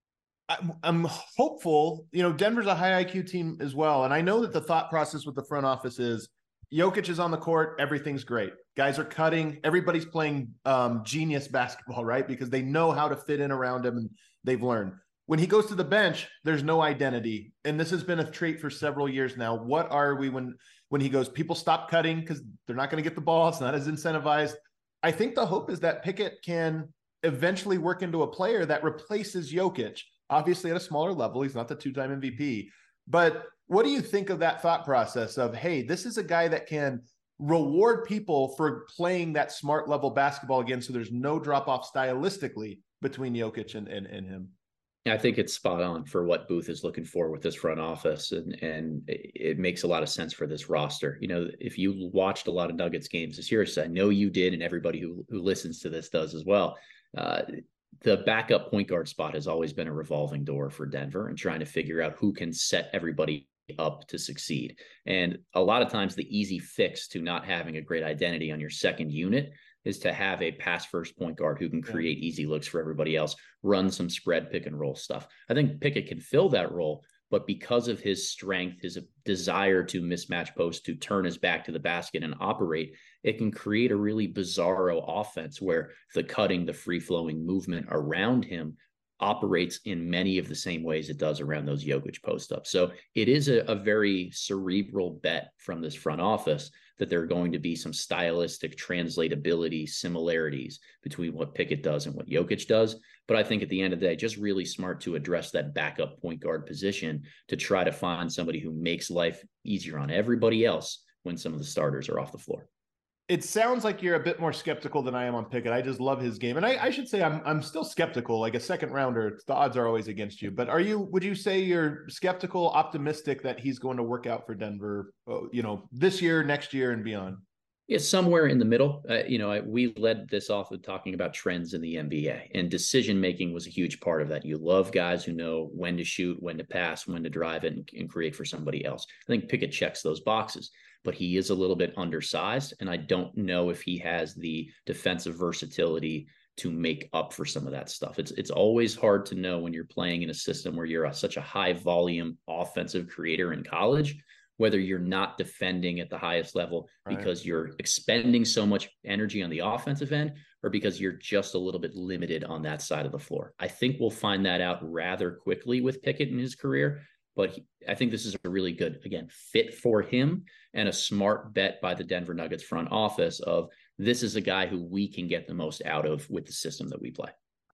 I'm hopeful. You know, Denver's a high I Q team as well. And I know that the thought process with the front office is Jokic is on the court. Everything's great. Guys are cutting. Everybody's playing um, genius basketball, right? Because they know how to fit in around him and they've learned. When he goes to the bench, there's no identity. And this has been a trait for several years now. What are we when, when he goes, people stop cutting because they're not going to get the ball. It's not as incentivized. I think the hope is that Pickett can eventually work into a player that replaces Jokic. Obviously at a smaller level. He's not the two-time M V P. But what do you think of that thought process of, hey, this is a guy that can reward people for playing that smart level basketball again, so there's no drop-off stylistically between Jokic and, and, and him? I think it's spot on for what Booth is looking for with this front office, and, and it makes a lot of sense for this roster. You know, if you watched a lot of Nuggets games this year, so I know you did, and everybody who, who listens to this does as well, uh, the backup point guard spot has always been a revolving door for Denver and trying to figure out who can set everybody up to succeed. And a lot of times the easy fix to not having a great identity on your second unit is to have a pass first point guard who can create easy looks for everybody else, run some spread pick and roll stuff. I think Pickett can fill that role, but because of his strength, his desire to mismatch post, to turn his back to the basket and operate, it can create a really bizarro offense where the cutting, the free-flowing movement around him operates in many of the same ways it does around those Jokic post-ups. So it is a, a very cerebral bet from this front office that there are going to be some stylistic translatability similarities between what Pickett does and what Jokic does. But I think at the end of the day, just really smart to address that backup point guard position to try to find somebody who makes life easier on everybody else when some of the starters are off the floor. It sounds like you're a bit more skeptical than I am on Pickett. I just love his game. And I, I should say I'm I'm still skeptical. Like a second rounder, the odds are always against you. But are you, would you say you're skeptical, optimistic that he's going to work out for Denver, uh, you know, this year, next year, and beyond? Yeah, somewhere in the middle. Uh, you know, I, we led this off with talking about trends in the N B A, and decision-making was a huge part of that. You love guys who know when to shoot, when to pass, when to drive it, and, and create for somebody else. I think Pickett checks those boxes, but he is a little bit undersized, and I don't know if he has the defensive versatility to make up for some of that stuff. It's it's always hard to know when you're playing in a system where you're a, such a high volume offensive creator in college, whether you're not defending at the highest level right. because you're expending so much energy on the offensive end, or because you're just a little bit limited on that side of the floor. I think we'll find that out rather quickly with Pickett in his career, but he, I think this is a really good, again, fit for him and a smart bet by the Denver Nuggets front office of this is a guy who we can get the most out of with the system that we play.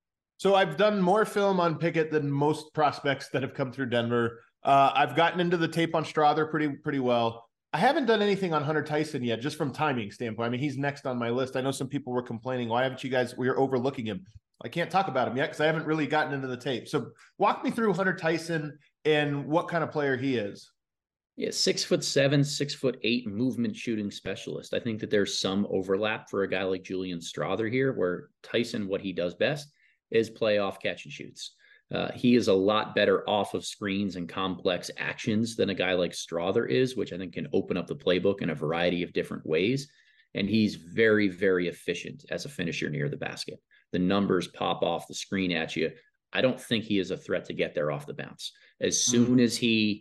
So I've done more film on Pickett than most prospects that have come through Denver. Uh, I've gotten into the tape on Strother pretty pretty well. I haven't done anything on Hunter Tyson yet, just from timing standpoint. I mean, he's next on my list. I know some people were complaining, why haven't you guys, we're overlooking him. I can't talk about him yet because I haven't really gotten into the tape. So walk me through Hunter Tyson and what kind of player he is. Yeah, six foot seven, six foot eight movement shooting specialist. I think that there's some overlap for a guy like Julian Strother here, where Tyson, what he does best is play off catch and shoots. Uh, he is a lot better off of screens and complex actions than a guy like Strother is, which I think can open up the playbook in a variety of different ways. And he's very, very efficient as a finisher near the basket. The numbers pop off the screen at you. I don't think he is a threat to get there off the bounce. As soon as he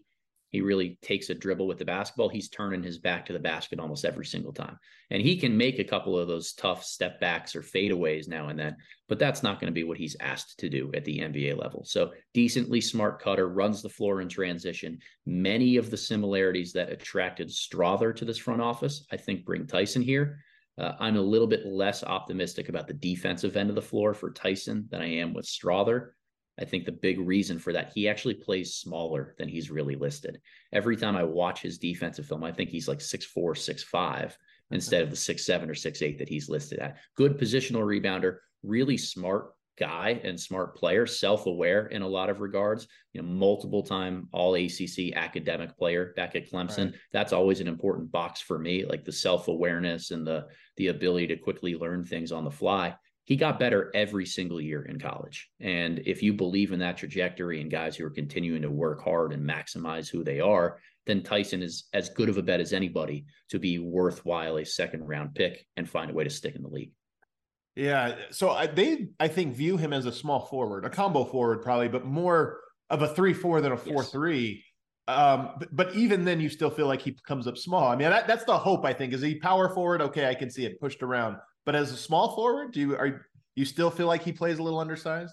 He really takes a dribble with the basketball. He's turning his back to the basket almost every single time. And he can make a couple of those tough step backs or fadeaways now and then, but that's not going to be what he's asked to do at the N B A level. So decently smart cutter, runs the floor in transition. Many of the similarities that attracted Strawther to this front office, I think, bring Tyson here. Uh, I'm a little bit less optimistic about the defensive end of the floor for Tyson than I am with Strawther. I think the big reason for that, he actually plays smaller than he's really listed. Every time I watch his defensive film, I think he's like six four, six five instead of the six seven or six eight that he's listed at. Good positional rebounder, really smart guy and smart player, self-aware in a lot of regards, you know, multiple time all A C C academic player back at Clemson. Right. That's always an important box for me, like the self-awareness and the, the ability to quickly learn things on the fly. He got better every single year in college. And if you believe in that trajectory and guys who are continuing to work hard and maximize who they are, then Tyson is as good of a bet as anybody to be worthwhile a second round pick and find a way to stick in the league. Yeah. So I, they, I think, view him as a small forward, a combo forward probably, but more of a three four than a four three. Yes. Um, but, but even then you still feel like he comes up small. I mean, that, that's the hope, I think. Is he power forward? Okay, I can see it pushed around. But as a small forward, do you are you still feel like he plays a little undersized?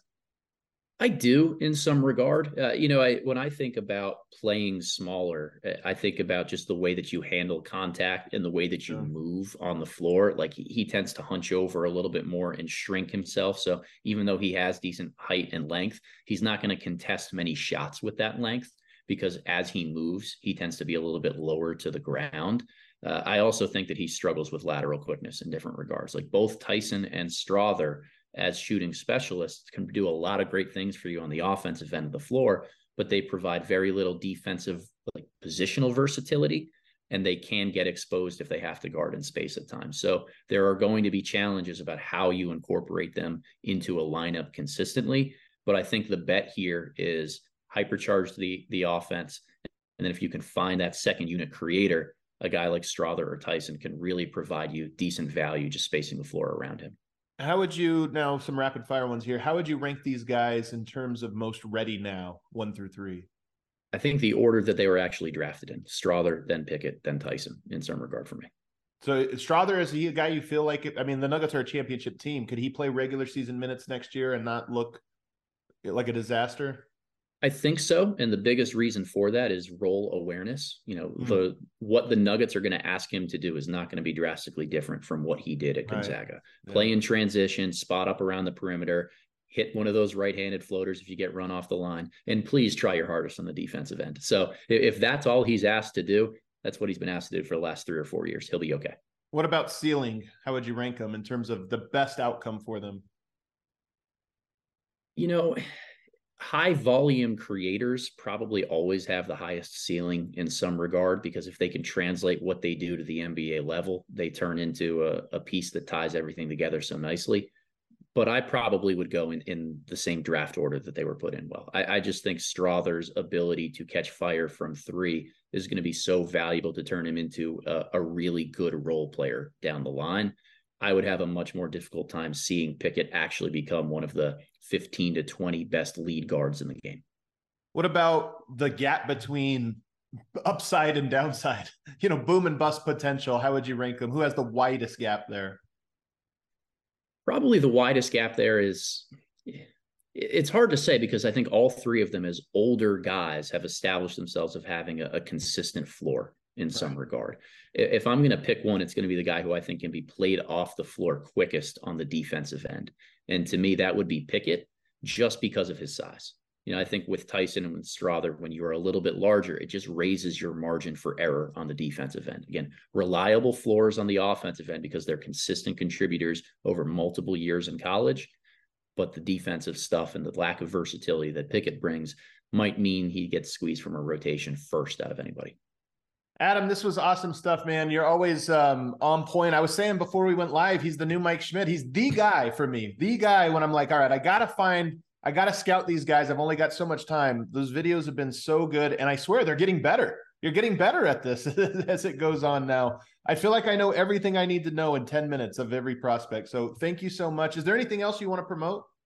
I do in some regard. Uh, you know, I when I think about playing smaller, I think about just the way that you handle contact and the way that you yeah. move on the floor. Like he, he tends to hunch over a little bit more and shrink himself. So even though he has decent height and length, he's not going to contest many shots with that length because as he moves, he tends to be a little bit lower to the ground. Uh, I also think that he struggles with lateral quickness in different regards. Like both Tyson and Strawther as shooting specialists can do a lot of great things for you on the offensive end of the floor, but they provide very little defensive like positional versatility, and they can get exposed if they have to guard in space at times. So there are going to be challenges about how you incorporate them into a lineup consistently. But I think the bet here is hypercharge the, the offense. And then if you can find that second unit creator, a guy like Strawther or Tyson can really provide you decent value just spacing the floor around him. How would you, now some rapid fire ones here, how would you rank these guys in terms of most ready now, one through three? I think the order that they were actually drafted in, Strawther, then Pickett, then Tyson, in some regard for me. So Strawther, is he a guy you feel like, it, I mean, the Nuggets are a championship team. Could he play regular season minutes next year and not look like a disaster? I think so. And the biggest reason for that is role awareness. You know, mm-hmm. the what the Nuggets are going to ask him to do is not going to be drastically different from what he did at Gonzaga. Right. Yeah. Play in transition, spot up around the perimeter, hit one of those right-handed floaters if you get run off the line, and please try your hardest on the defensive end. So if that's all he's asked to do, that's what he's been asked to do for the last three or four years. He'll be okay. What about ceiling? How would you rank them in terms of the best outcome for them? You know, high volume creators probably always have the highest ceiling in some regard, because if they can translate what they do to the N B A level, they turn into a, a piece that ties everything together so nicely. But I probably would go in, in the same draft order that they were put in. Well, I, I just think Strawther's ability to catch fire from three is going to be so valuable to turn him into a, a really good role player down the line. I would have a much more difficult time seeing Pickett actually become one of the fifteen to twenty best lead guards in the game. What about the gap between upside and downside? You know, boom and bust potential. How would you rank them? Who has the widest gap there? Probably the widest gap there is, it's hard to say because I think all three of them as older guys have established themselves of having a, a consistent floor in some right. regard. If I'm going to pick one, it's going to be the guy who I think can be played off the floor quickest on the defensive end. And to me, that would be Pickett, just because of his size. You know, I think with Tyson and with Strawther, when you are a little bit larger, it just raises your margin for error on the defensive end. Again, reliable floors on the offensive end because they're consistent contributors over multiple years in college. But the defensive stuff and the lack of versatility that Pickett brings might mean he gets squeezed from a rotation first out of anybody. Adam, this was awesome stuff, man. You're always um, on point. I was saying before we went live, he's the new Mike Schmidt. He's the guy for me, the guy when I'm like, all right, I got to find, I got to scout these guys. I've only got so much time. Those videos have been so good. And I swear they're getting better. You're getting better at this as it goes on now. I feel like I know everything I need to know in ten minutes of every prospect. So thank you so much. Is there anything else you want to promote?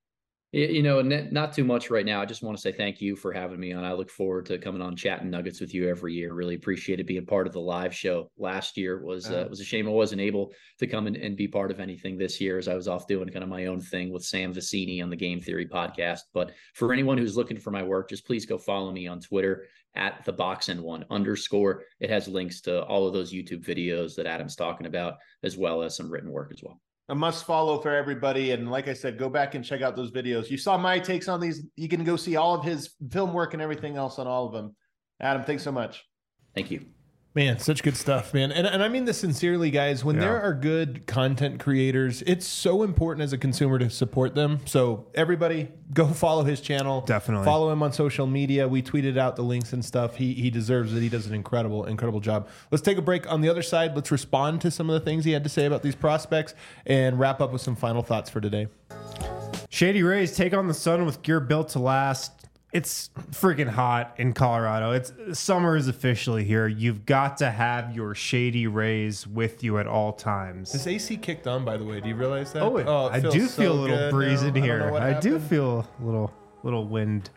You know, not too much right now. I just want to say thank you for having me on. I look forward to coming on chatting Nuggets with you every year. Really appreciate it being part of the live show. Last year was uh, it was a shame I wasn't able to come in and be part of anything this year, as I was off doing kind of my own thing with Sam Vecini on the Game Theory podcast. But for anyone who's looking for my work, just please go follow me on Twitter at the box and one underscore. It has links to all of those YouTube videos that Adam's talking about, as well as some written work as well. A must follow for everybody. And like I said, go back and check out those videos. You saw my takes on these. You can go see all of his film work and everything else on all of them. Adam, thanks so much. Thank you. Man, such good stuff, man. And, and I mean this sincerely, guys. When yeah. there are good content creators, it's so important as a consumer to support them. So everybody, go follow his channel. Definitely. Follow him on social media. We tweeted out the links and stuff. He he deserves it. He does an incredible, incredible job. Let's take a break. On the other side, let's respond to some of the things he had to say about these prospects and wrap up with some final thoughts for today. Shady Rays take on the Sun with gear built to last. It's freaking hot in Colorado. It's summer is officially here. You've got to have your Shady Rays with you at all times. This A C kicked on, by the way. Do you realize that? Oh, it, oh it I do so feel a little breeze now. in here. I, I do feel a little little wind.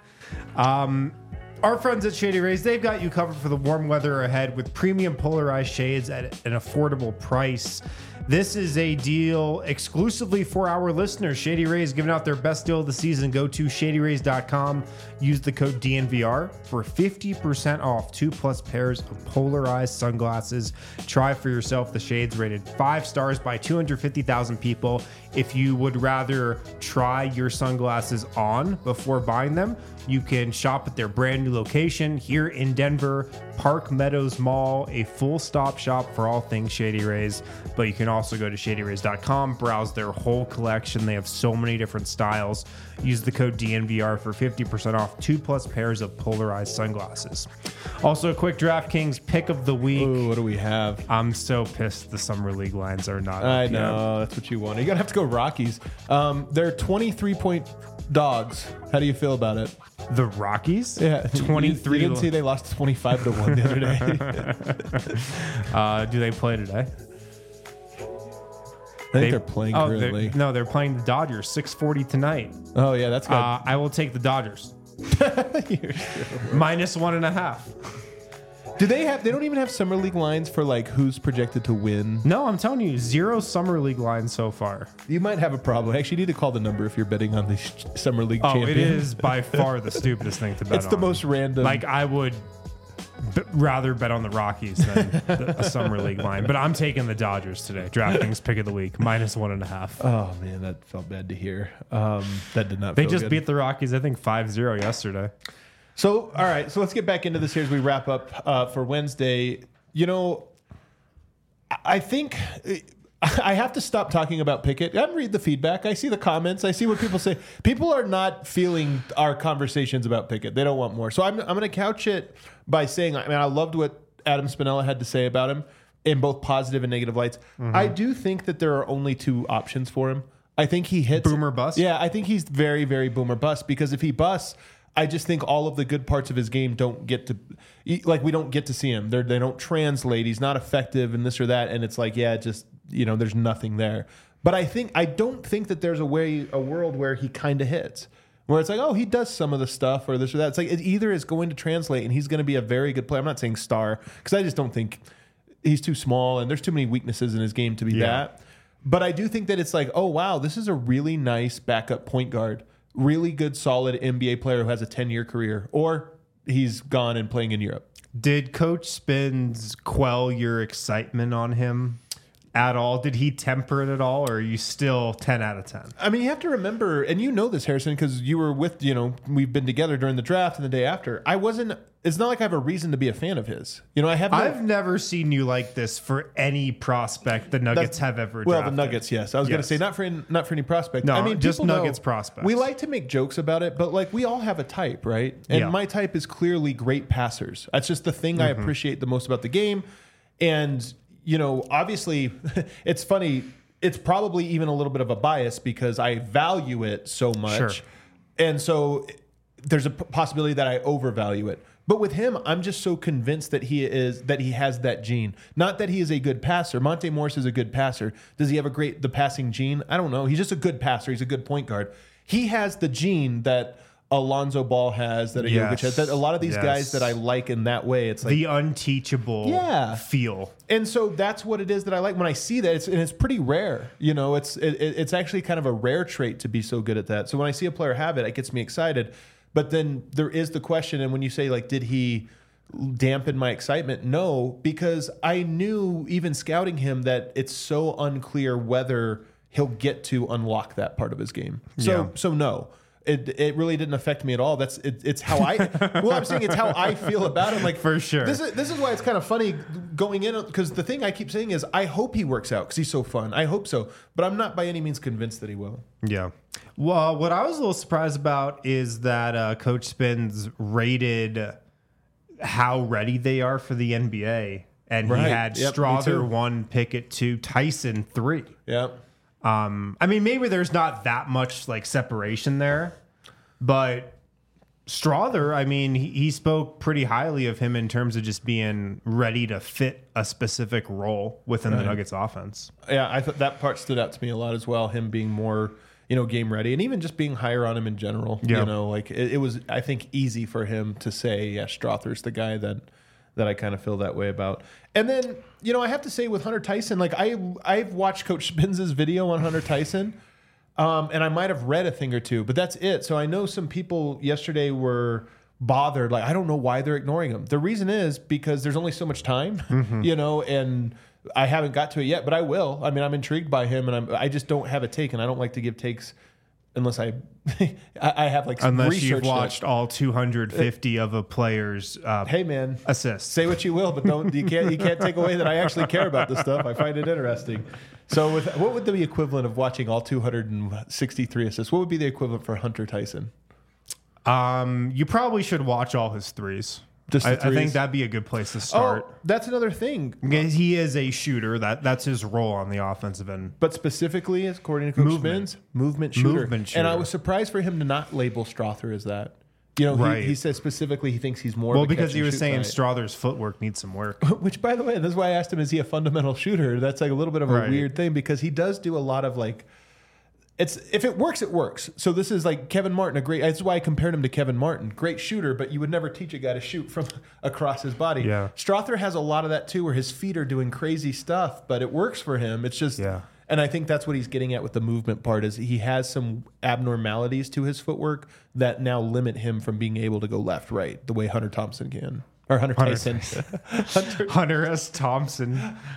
Um, our friends at Shady Rays, they've got you covered for the warm weather ahead with premium polarized shades at an affordable price. This is a deal exclusively for our listeners. Shady Rays giving out their best deal of the season. Go to shady rays dot com. Use the code D N V R for fifty percent off two plus pairs of polarized sunglasses. Try for yourself the shades rated five stars by two hundred fifty thousand people. If you would rather try your sunglasses on before buying them, you can shop at their brand new location here in Denver, Park Meadows Mall, a full stop shop for all things Shady Rays. But you can also go to shady rays dot com, browse their whole collection. They have so many different styles. Use the code D N V R for fifty percent off two plus pairs of polarized sunglasses. Also, a quick DraftKings pick of the week. Ooh, what do we have? I'm so pissed the Summer League lines are not. I know, that's what you want. You're going to have to go Rockies. Um, they're twenty-three point dogs. How do you feel about it? The Rockies? Yeah. twenty-three. You, you didn't see they lost twenty-five to one the other day. uh, do they play today? I think they, are playing oh, currently. They're, no, they're playing the Dodgers, six forty tonight. Oh, yeah, that's good. Uh, I will take the Dodgers. Minus one and a half. Do they have, they don't even have Summer League lines for like who's projected to win? No, I'm telling you, zero Summer League lines so far. You might have a problem. Actually, you need to call the number if you're betting on the Summer League oh, champion. It is by far the stupidest thing to bet it's on. It's the most random. Like, I would b- rather bet on the Rockies than the, a Summer League line. But I'm taking the Dodgers today. DraftKings pick of the week, minus one and a half. Oh, man, that felt bad to hear. Um, that did not They feel just good. beat the Rockies, I think, five zero yesterday. So, all right. So let's get back into this here as we wrap up uh, for Wednesday. You know, I think I have to stop talking about Pickett. I read the feedback. I see the comments. I see what people say. People are not feeling our conversations about Pickett. They don't want more. So I'm, I'm going to couch it by saying, I mean, I loved what Adam Spinella had to say about him in both positive and negative lights. Mm-hmm. I do think that there are only two options for him. I think he hits. Boomer bust? Yeah, I think he's very, very boomer bust because if he busts, I just think all of the good parts of his game don't get to, like, we don't get to see him. They're, they don't translate. He's not effective and this or that. And it's like, yeah, just, you know, there's nothing there. But I think, I don't think that there's a way, a world where he kind of hits, where it's like, oh, he does some of the stuff or this or that. It's like, it either is going to translate and he's going to be a very good player. I'm not saying star, because I just don't think he's too small and there's too many weaknesses in his game to be yeah. that. But I do think that it's like, oh, wow, this is a really nice backup point guard. Really good, solid N B A player who has a ten-year career, or he's gone and playing in Europe. Did Coach Spins quell your excitement on him at all? Did he temper it at all, or are you still ten out of ten? I mean, you have to remember, and you know this, Harrison, because you were with, you know, we've been together during the draft and the day after. I wasn't, it's not like I have a reason to be a fan of his. You know, I have no, I've never seen you like this for any prospect the Nuggets have ever well, drafted. the Nuggets, yes. I was yes. going to say, not for any, not for any prospect. No, I mean, just Nuggets know, prospects. We like to make jokes about it, but like we all have a type, right? And yeah. my type is clearly great passers. That's just the thing mm-hmm. I appreciate the most about the game. And, you know, obviously, it's funny. It's probably even a little bit of a bias because I value it so much. Sure. And so there's a possibility that I overvalue it. But with him, I'm just so convinced that he is that he has that gene. Not that he is a good passer. Monte Morris is a good passer. Does he have a great the passing gene? I don't know. He's just a good passer. He's a good point guard. he has the gene that Alonzo Ball has, that a Yes. Jokic has, that a lot of these Yes. guys that I like in that way. It's like the unteachable Yeah. feel. And so that's what it is that I like when I see that. It's and it's pretty rare, you know. It's it, it's actually kind of a rare trait to be so good at that. So when I see a player have it, it gets me excited. But then there is the question, and when you say like, did he dampen my excitement? No, because I knew even scouting him that it's so unclear whether he'll get to unlock that part of his game. So Yeah. so no. It it really didn't affect me at all. That's it, it's how I well I'm saying it's how I feel about him. Like For sure. This is this is why it's kind of funny going in, because the thing I keep saying is I hope he works out because he's so fun. I hope so, but I'm not by any means convinced that he will. Yeah. Well, what I was a little surprised about is that uh, Coach Spins rated how ready they are for the N B A, and Right. he had Yep, me Strother too. one, Pickett two, Tyson three. Yeah. Um, I mean, maybe there's not that much like separation there, but Strother, I mean, he, he spoke pretty highly of him in terms of just being ready to fit a specific role within the Right. Nuggets offense. Yeah, I thought that part stood out to me a lot as well. Him being more, you know, game ready, and even just being higher on him in general. Yeah. You know, like it, it was, I think, easy for him to say, yeah, Strother's the guy that that I kind of feel that way about. And then, you know, I have to say with Hunter Tyson, like I I've watched Coach Spins' video on Hunter Tyson, um, and I might have read a thing or two, but that's it. So I know some people yesterday were bothered, like I don't know why they're ignoring him. The reason is because there's only so much time, you know, and I haven't got to it yet, but I will. I mean, I'm intrigued by him, and I'm I just don't have a take, and I don't like to give takes unless I I I have like some Unless research you've that- watched all two hundred fifty of a player's uh, Hey man, assists. say what you will, but don't you can't you can't take away that I actually care about this stuff. I find it interesting. So, with what would the equivalent of watching all two hundred sixty-three assists? What would be the equivalent for Hunter Tyson? Um, you probably should watch all his threes. Just the I, I think threes? that'd be a good place to start. Oh, that's another thing. Because He is a shooter. That that's his role on the offensive end. But specifically, according to Coach Movement. Spins, movement shooter. Movement And I shooter. was surprised for him to not label Strother as that. You know, Right. he, he said specifically he thinks he's more. Well, of a because catch he and was shoot saying guy. Strother's footwork needs some work. Which, by the way, this is why I asked him, is he a fundamental shooter? That's like a little bit of a Right. weird thing because he does do a lot of like, it's if it works, it works. So this is like Kevin Martin, a great. That's why I compared him to Kevin Martin, great shooter, but you would never teach a guy to shoot from across his body. Yeah. Strother has a lot of that too, where his feet are doing crazy stuff, but it works for him. It's just, Yeah. and I think that's what he's getting at with the movement part is he has some abnormalities to his footwork that now limit him from being able to go left, right, the way Hunter Thompson can. Or Hunter, Hunter Tyson. Hunter, Hunter S. Thompson.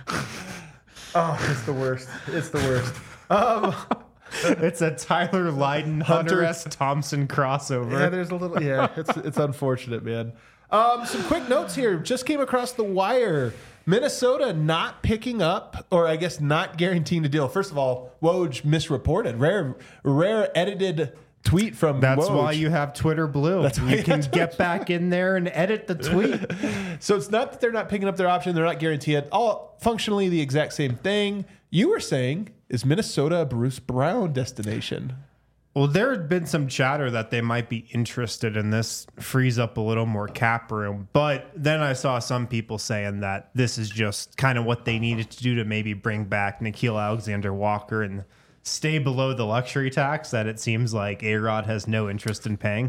oh, it's the worst. It's the worst. Um, It's a Tyler Lydon, Hunter, Hunter- S. Thompson crossover. yeah, there's a little. Yeah, it's it's unfortunate, man. Um, some quick notes here. Just came across the wire. Minnesota not picking up, or I guess not guaranteeing the deal. First of all, Woj misreported. Rare, rare edited tweet from. That's Woj. why you have Twitter Blue. That's why you you can have get back in there and edit the tweet. So it's not that they're not picking up their option. They're not guaranteed. All functionally the exact same thing. You were saying, is Minnesota a Bruce Brown destination? Well, there had been some chatter that they might be interested in this, frees up a little more cap room. But then I saw some people saying that this is just kind of what they needed to do to maybe bring back Nickeil Alexander-Walker and stay below the luxury tax that it seems like A-Rod has no interest in paying.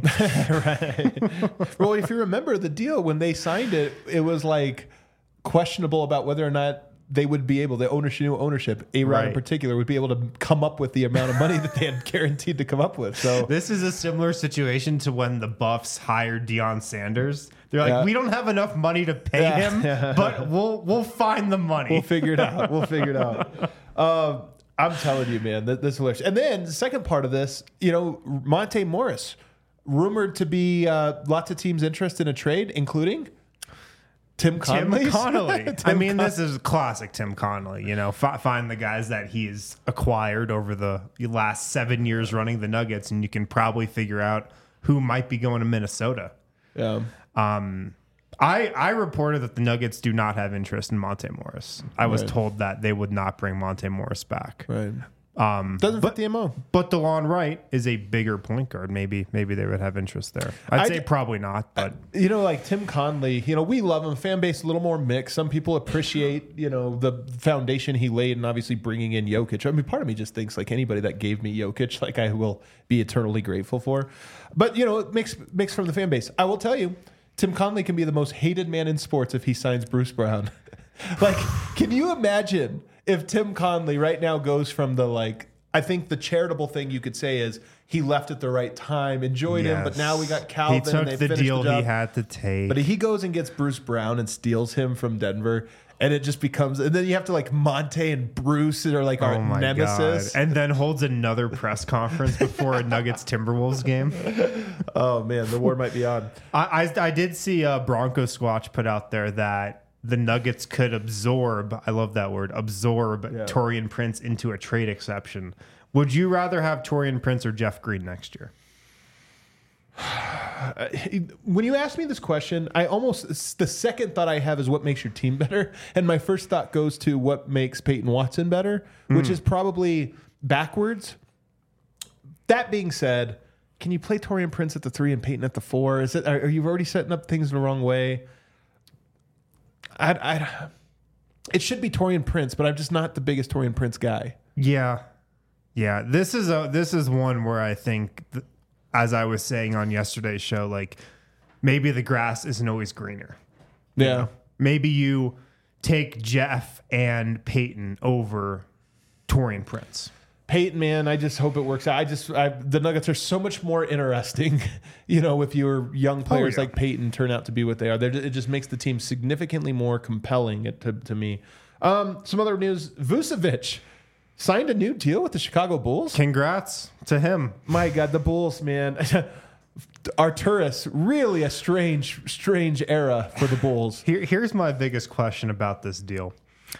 Well, if you remember the deal, when they signed it, it was like questionable about whether or not they would be able, the ownership, new ownership, A-Rod in Right. particular, would be able to come up with the amount of money that they had guaranteed to come up with. So This is a similar situation to when the Buffs hired Deion Sanders. They're like, Yeah. we don't have enough money to pay Yeah. him, Yeah. but we'll we'll find the money. we'll figure it out. We'll figure it out. Um, I'm telling you, man, that, this is hilarious. And then the second part of this, you know, Monte Morris, rumored to be uh, lots of teams interested in a trade, including Tim Tim Connolly. Connolly. I Tim mean, Con- this is classic Tim Connolly. You know, fi- find the guys that he's acquired over the last seven years running the Nuggets, and you can probably figure out who might be going to Minnesota. Yeah. Um, I I reported that the Nuggets do not have interest in Monte Morris. I was Right. told that they would not bring Monte Morris back. Right. Um, Doesn't but, fit the M O. But DeLon Wright is a bigger point guard. Maybe maybe they would have interest there. I'd I say d- probably not, but You know, like Tim Conley, you know, we love him. Fan base a little more mixed. Some people appreciate, you know, the foundation he laid and obviously bringing in Jokic. I mean, part of me just thinks like anybody that gave me Jokic, like I will be eternally grateful for. But, you know, it makes makes from the fan base. I will tell you, Tim Conley can be the most hated man in sports if he signs Bruce Brown. Like, can you imagine if Tim Conley right now goes from the like, I think the charitable thing you could say is he left at the right time, enjoyed him, but now we got Calvin. He took and they the finished deal the job. he had to take. But he goes and gets Bruce Brown and steals him from Denver, and it just becomes. And then you have to like Monte and Bruce are like our oh my nemesis. God. And then holds another press conference before a Nuggets Timberwolves game. Oh man, the war might be on. I, I, I did see uh, Bronco Squatch put out there that the Nuggets could absorb, I love that word, absorb Yeah. Taurean Prince into a trade exception. Would you rather have Taurean Prince or Jeff Green next year? When you ask me this question, I almost the second thought I have is what makes your team better, and my first thought goes to what makes Peyton Watson better, which Mm. is probably backwards. That being said, can you play Taurean Prince at the three and Peyton at the four? Is it? Are, are you already setting up things the wrong way? I, I, it should be Taurean Prince, but I'm just not the biggest Taurean Prince guy. Yeah. Yeah. This is a this is one where I think, th- as I was saying on yesterday's show, like maybe the grass isn't always greener. Yeah. Maybe you take Jeff and Peyton over Taurean Prince. Peyton, man, I just hope it works out. I just I, the Nuggets are so much more interesting, you know, if your young players yeah. like Peyton turn out to be what they are. They're, it just makes the team significantly more compelling to, to me. Um, some other news: Vucevic signed a new deal with the Chicago Bulls. Congrats to him. My God, the Bulls, man. Arturis, really a strange, strange era for the Bulls. Here, here's my biggest question about this deal.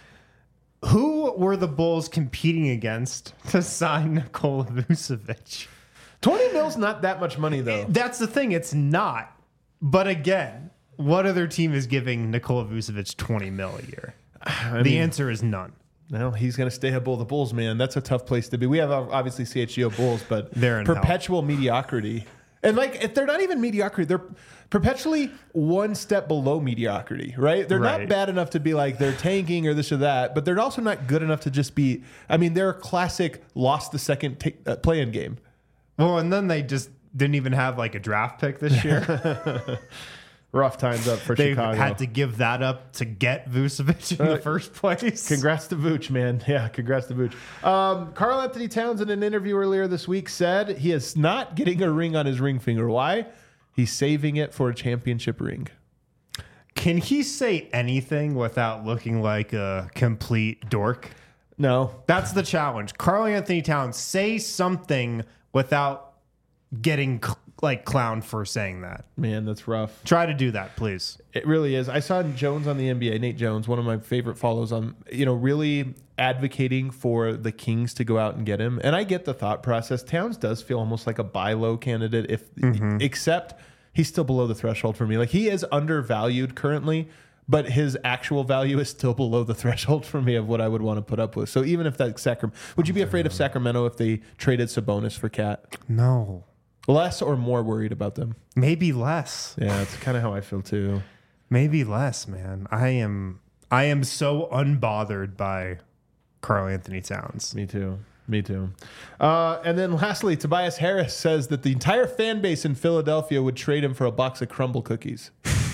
Who were the Bulls competing against to sign Nikola Vucevic? twenty mil's not that much money, though. That's the thing. It's not. But again, what other team is giving Nikola Vucevic twenty mil a year? I the mean, answer is none. Well, he's going to stay a Bull. The Bulls, man, that's a tough place to be. We have uh, obviously C H G O Bulls, but They're in perpetual mediocrity. And like, if they're not even mediocrity, they're perpetually one step below mediocrity, right? They're Right. not bad enough to be like they're tanking or this or that, but they're also not good enough to just be. I mean, they're a classic lost the second t- uh, play-in game. Well, and then they just didn't even have like a draft pick this year. Rough times up for They Chicago. had to give that up to get Vucevic in Uh, the first place. Congrats to Vooch, man. Yeah, congrats to Vooch. Um, Karl Anthony Towns, in an interview earlier this week, said he is not getting a ring on his ring finger. Why? He's saving it for a championship ring. Can he say anything without looking like a complete dork? No. That's the challenge. Karl Anthony Towns, say something without getting cl- like clowned for saying that. Man, that's rough. Try to do that, please. It really is. I saw Jones on the N B A, Nate Jones, one of my favorite follows on, you know, really advocating for the Kings to go out and get him. And I get the thought process. Towns does feel almost like a buy low candidate, if except he's still below the threshold for me. Like, he is undervalued currently, but his actual value is still below the threshold for me of what I would want to put up with. So even if that Sacramento, would you be afraid of Sacramento if they traded Sabonis for Cat? No. Less or more worried about them? Maybe less. Yeah, that's kind of how I feel too. Maybe less, man. I am I am so unbothered by Karl Anthony Towns. Me too. Me too. Uh, and then lastly, Tobias Harris says that the entire fan base in Philadelphia would trade him for a box of crumble cookies.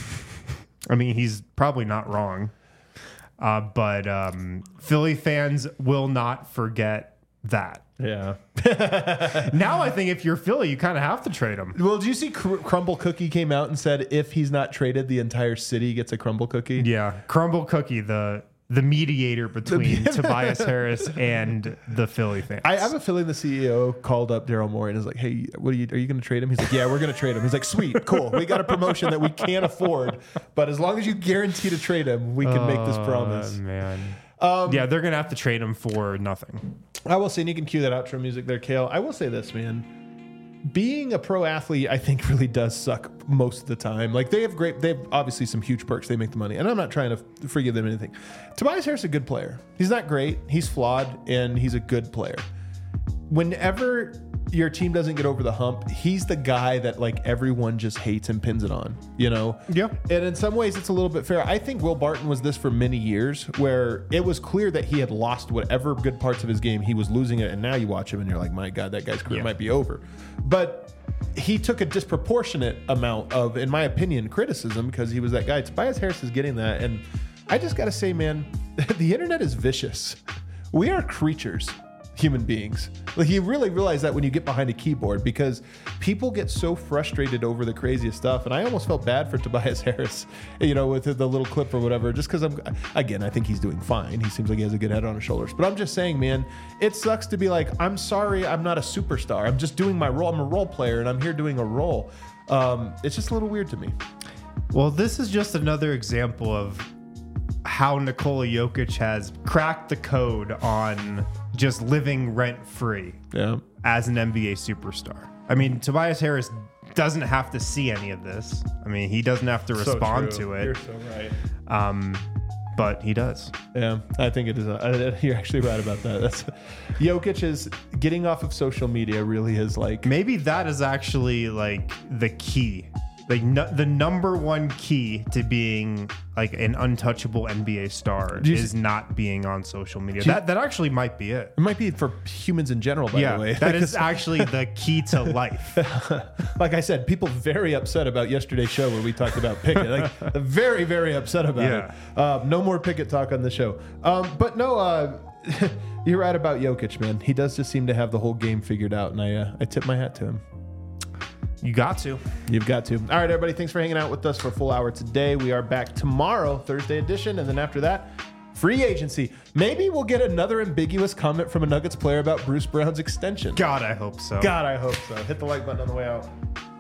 I mean, he's probably not wrong. Uh, but um, Philly fans will not forget that. Yeah. Now I think if you're Philly, you kind of have to trade him. Well, did you see Cr- Crumble Cookie came out and said if he's not traded, the entire city gets a crumble cookie? Yeah, Crumble Cookie, the the mediator between Tobias Harris and the Philly fans. I have a feeling the C E O called up Daryl Morey and is like, "Hey, what are you? Are you going to trade him?" He's like, "Yeah, we're going to trade him." He's like, "Sweet, cool. We got a promotion that we can't afford, but as long as you guarantee to trade him, we can make this promise." Oh, man. Um, yeah, they're gonna have to trade him for nothing. I will say, and you can cue that outro music there, Kale. I will say this, man. Being a pro athlete, I think, really does suck most of the time. Like, they have great, they have obviously some huge perks. They make the money. And I'm not trying to f- forgive them anything. Tobias Harris is a good player. He's not great. He's flawed, and he's a good player. whenever your team doesn't get over the hump, he's the guy that like everyone just hates and pins it on, you know? Yep. And in some ways it's a little bit fair. I think Will Barton was this for many years, where it was clear that he had lost whatever good parts of his game. He was losing it. And now you watch him and you're like, my God, that guy's career Yeah. might be over. But he took a disproportionate amount of, in my opinion, criticism because he was that guy. Tobias Harris is getting that. And I just got to say, man, the internet is vicious. We are creatures, human beings. Like, you really realize that when you get behind a keyboard, because people get so frustrated over the craziest stuff. And I almost felt bad for Tobias Harris, you know, with the little clip or whatever, just because I'm, again, I think he's doing fine. He seems like he has a good head on his shoulders. But I'm just saying, man, it sucks to be like, I'm sorry, I'm not a superstar. I'm just doing my role. I'm a role player and I'm here doing a role. Um, it's just a little weird to me. Well, this is just another example of how Nikola Jokic has cracked the code on just living rent-free Yeah. as an N B A superstar. I mean, Tobias Harris doesn't have to see any of this. I mean, he doesn't have to respond to it. You're so right. Um, but he does. Yeah, I think it is. A, you're actually right about that. That's Jokic is getting off of social media. Really is like Maybe that is actually like the key. Like no, the number one key to being like an untouchable N B A star you is s- not being on social media. you- That that actually might be it. it might be for humans in general. By Yeah, the way, that is actually the key to life. like I said, people very upset about yesterday's show where we talked about Pickett. Like very, very upset about Yeah. it. Um, no more Pickett talk on the show. Um, but no, uh, you're right about Jokic, man. He does just seem to have the whole game figured out, and I uh, I tip my hat to him. You got to. You've got to. All right, everybody. Thanks for hanging out with us for a full hour today. We are back tomorrow, Thursday edition. And then after that, free agency. Maybe we'll get another ambiguous comment from a Nuggets player about Bruce Brown's extension. God, I hope so. God, I hope so. Hit the like button on the way out.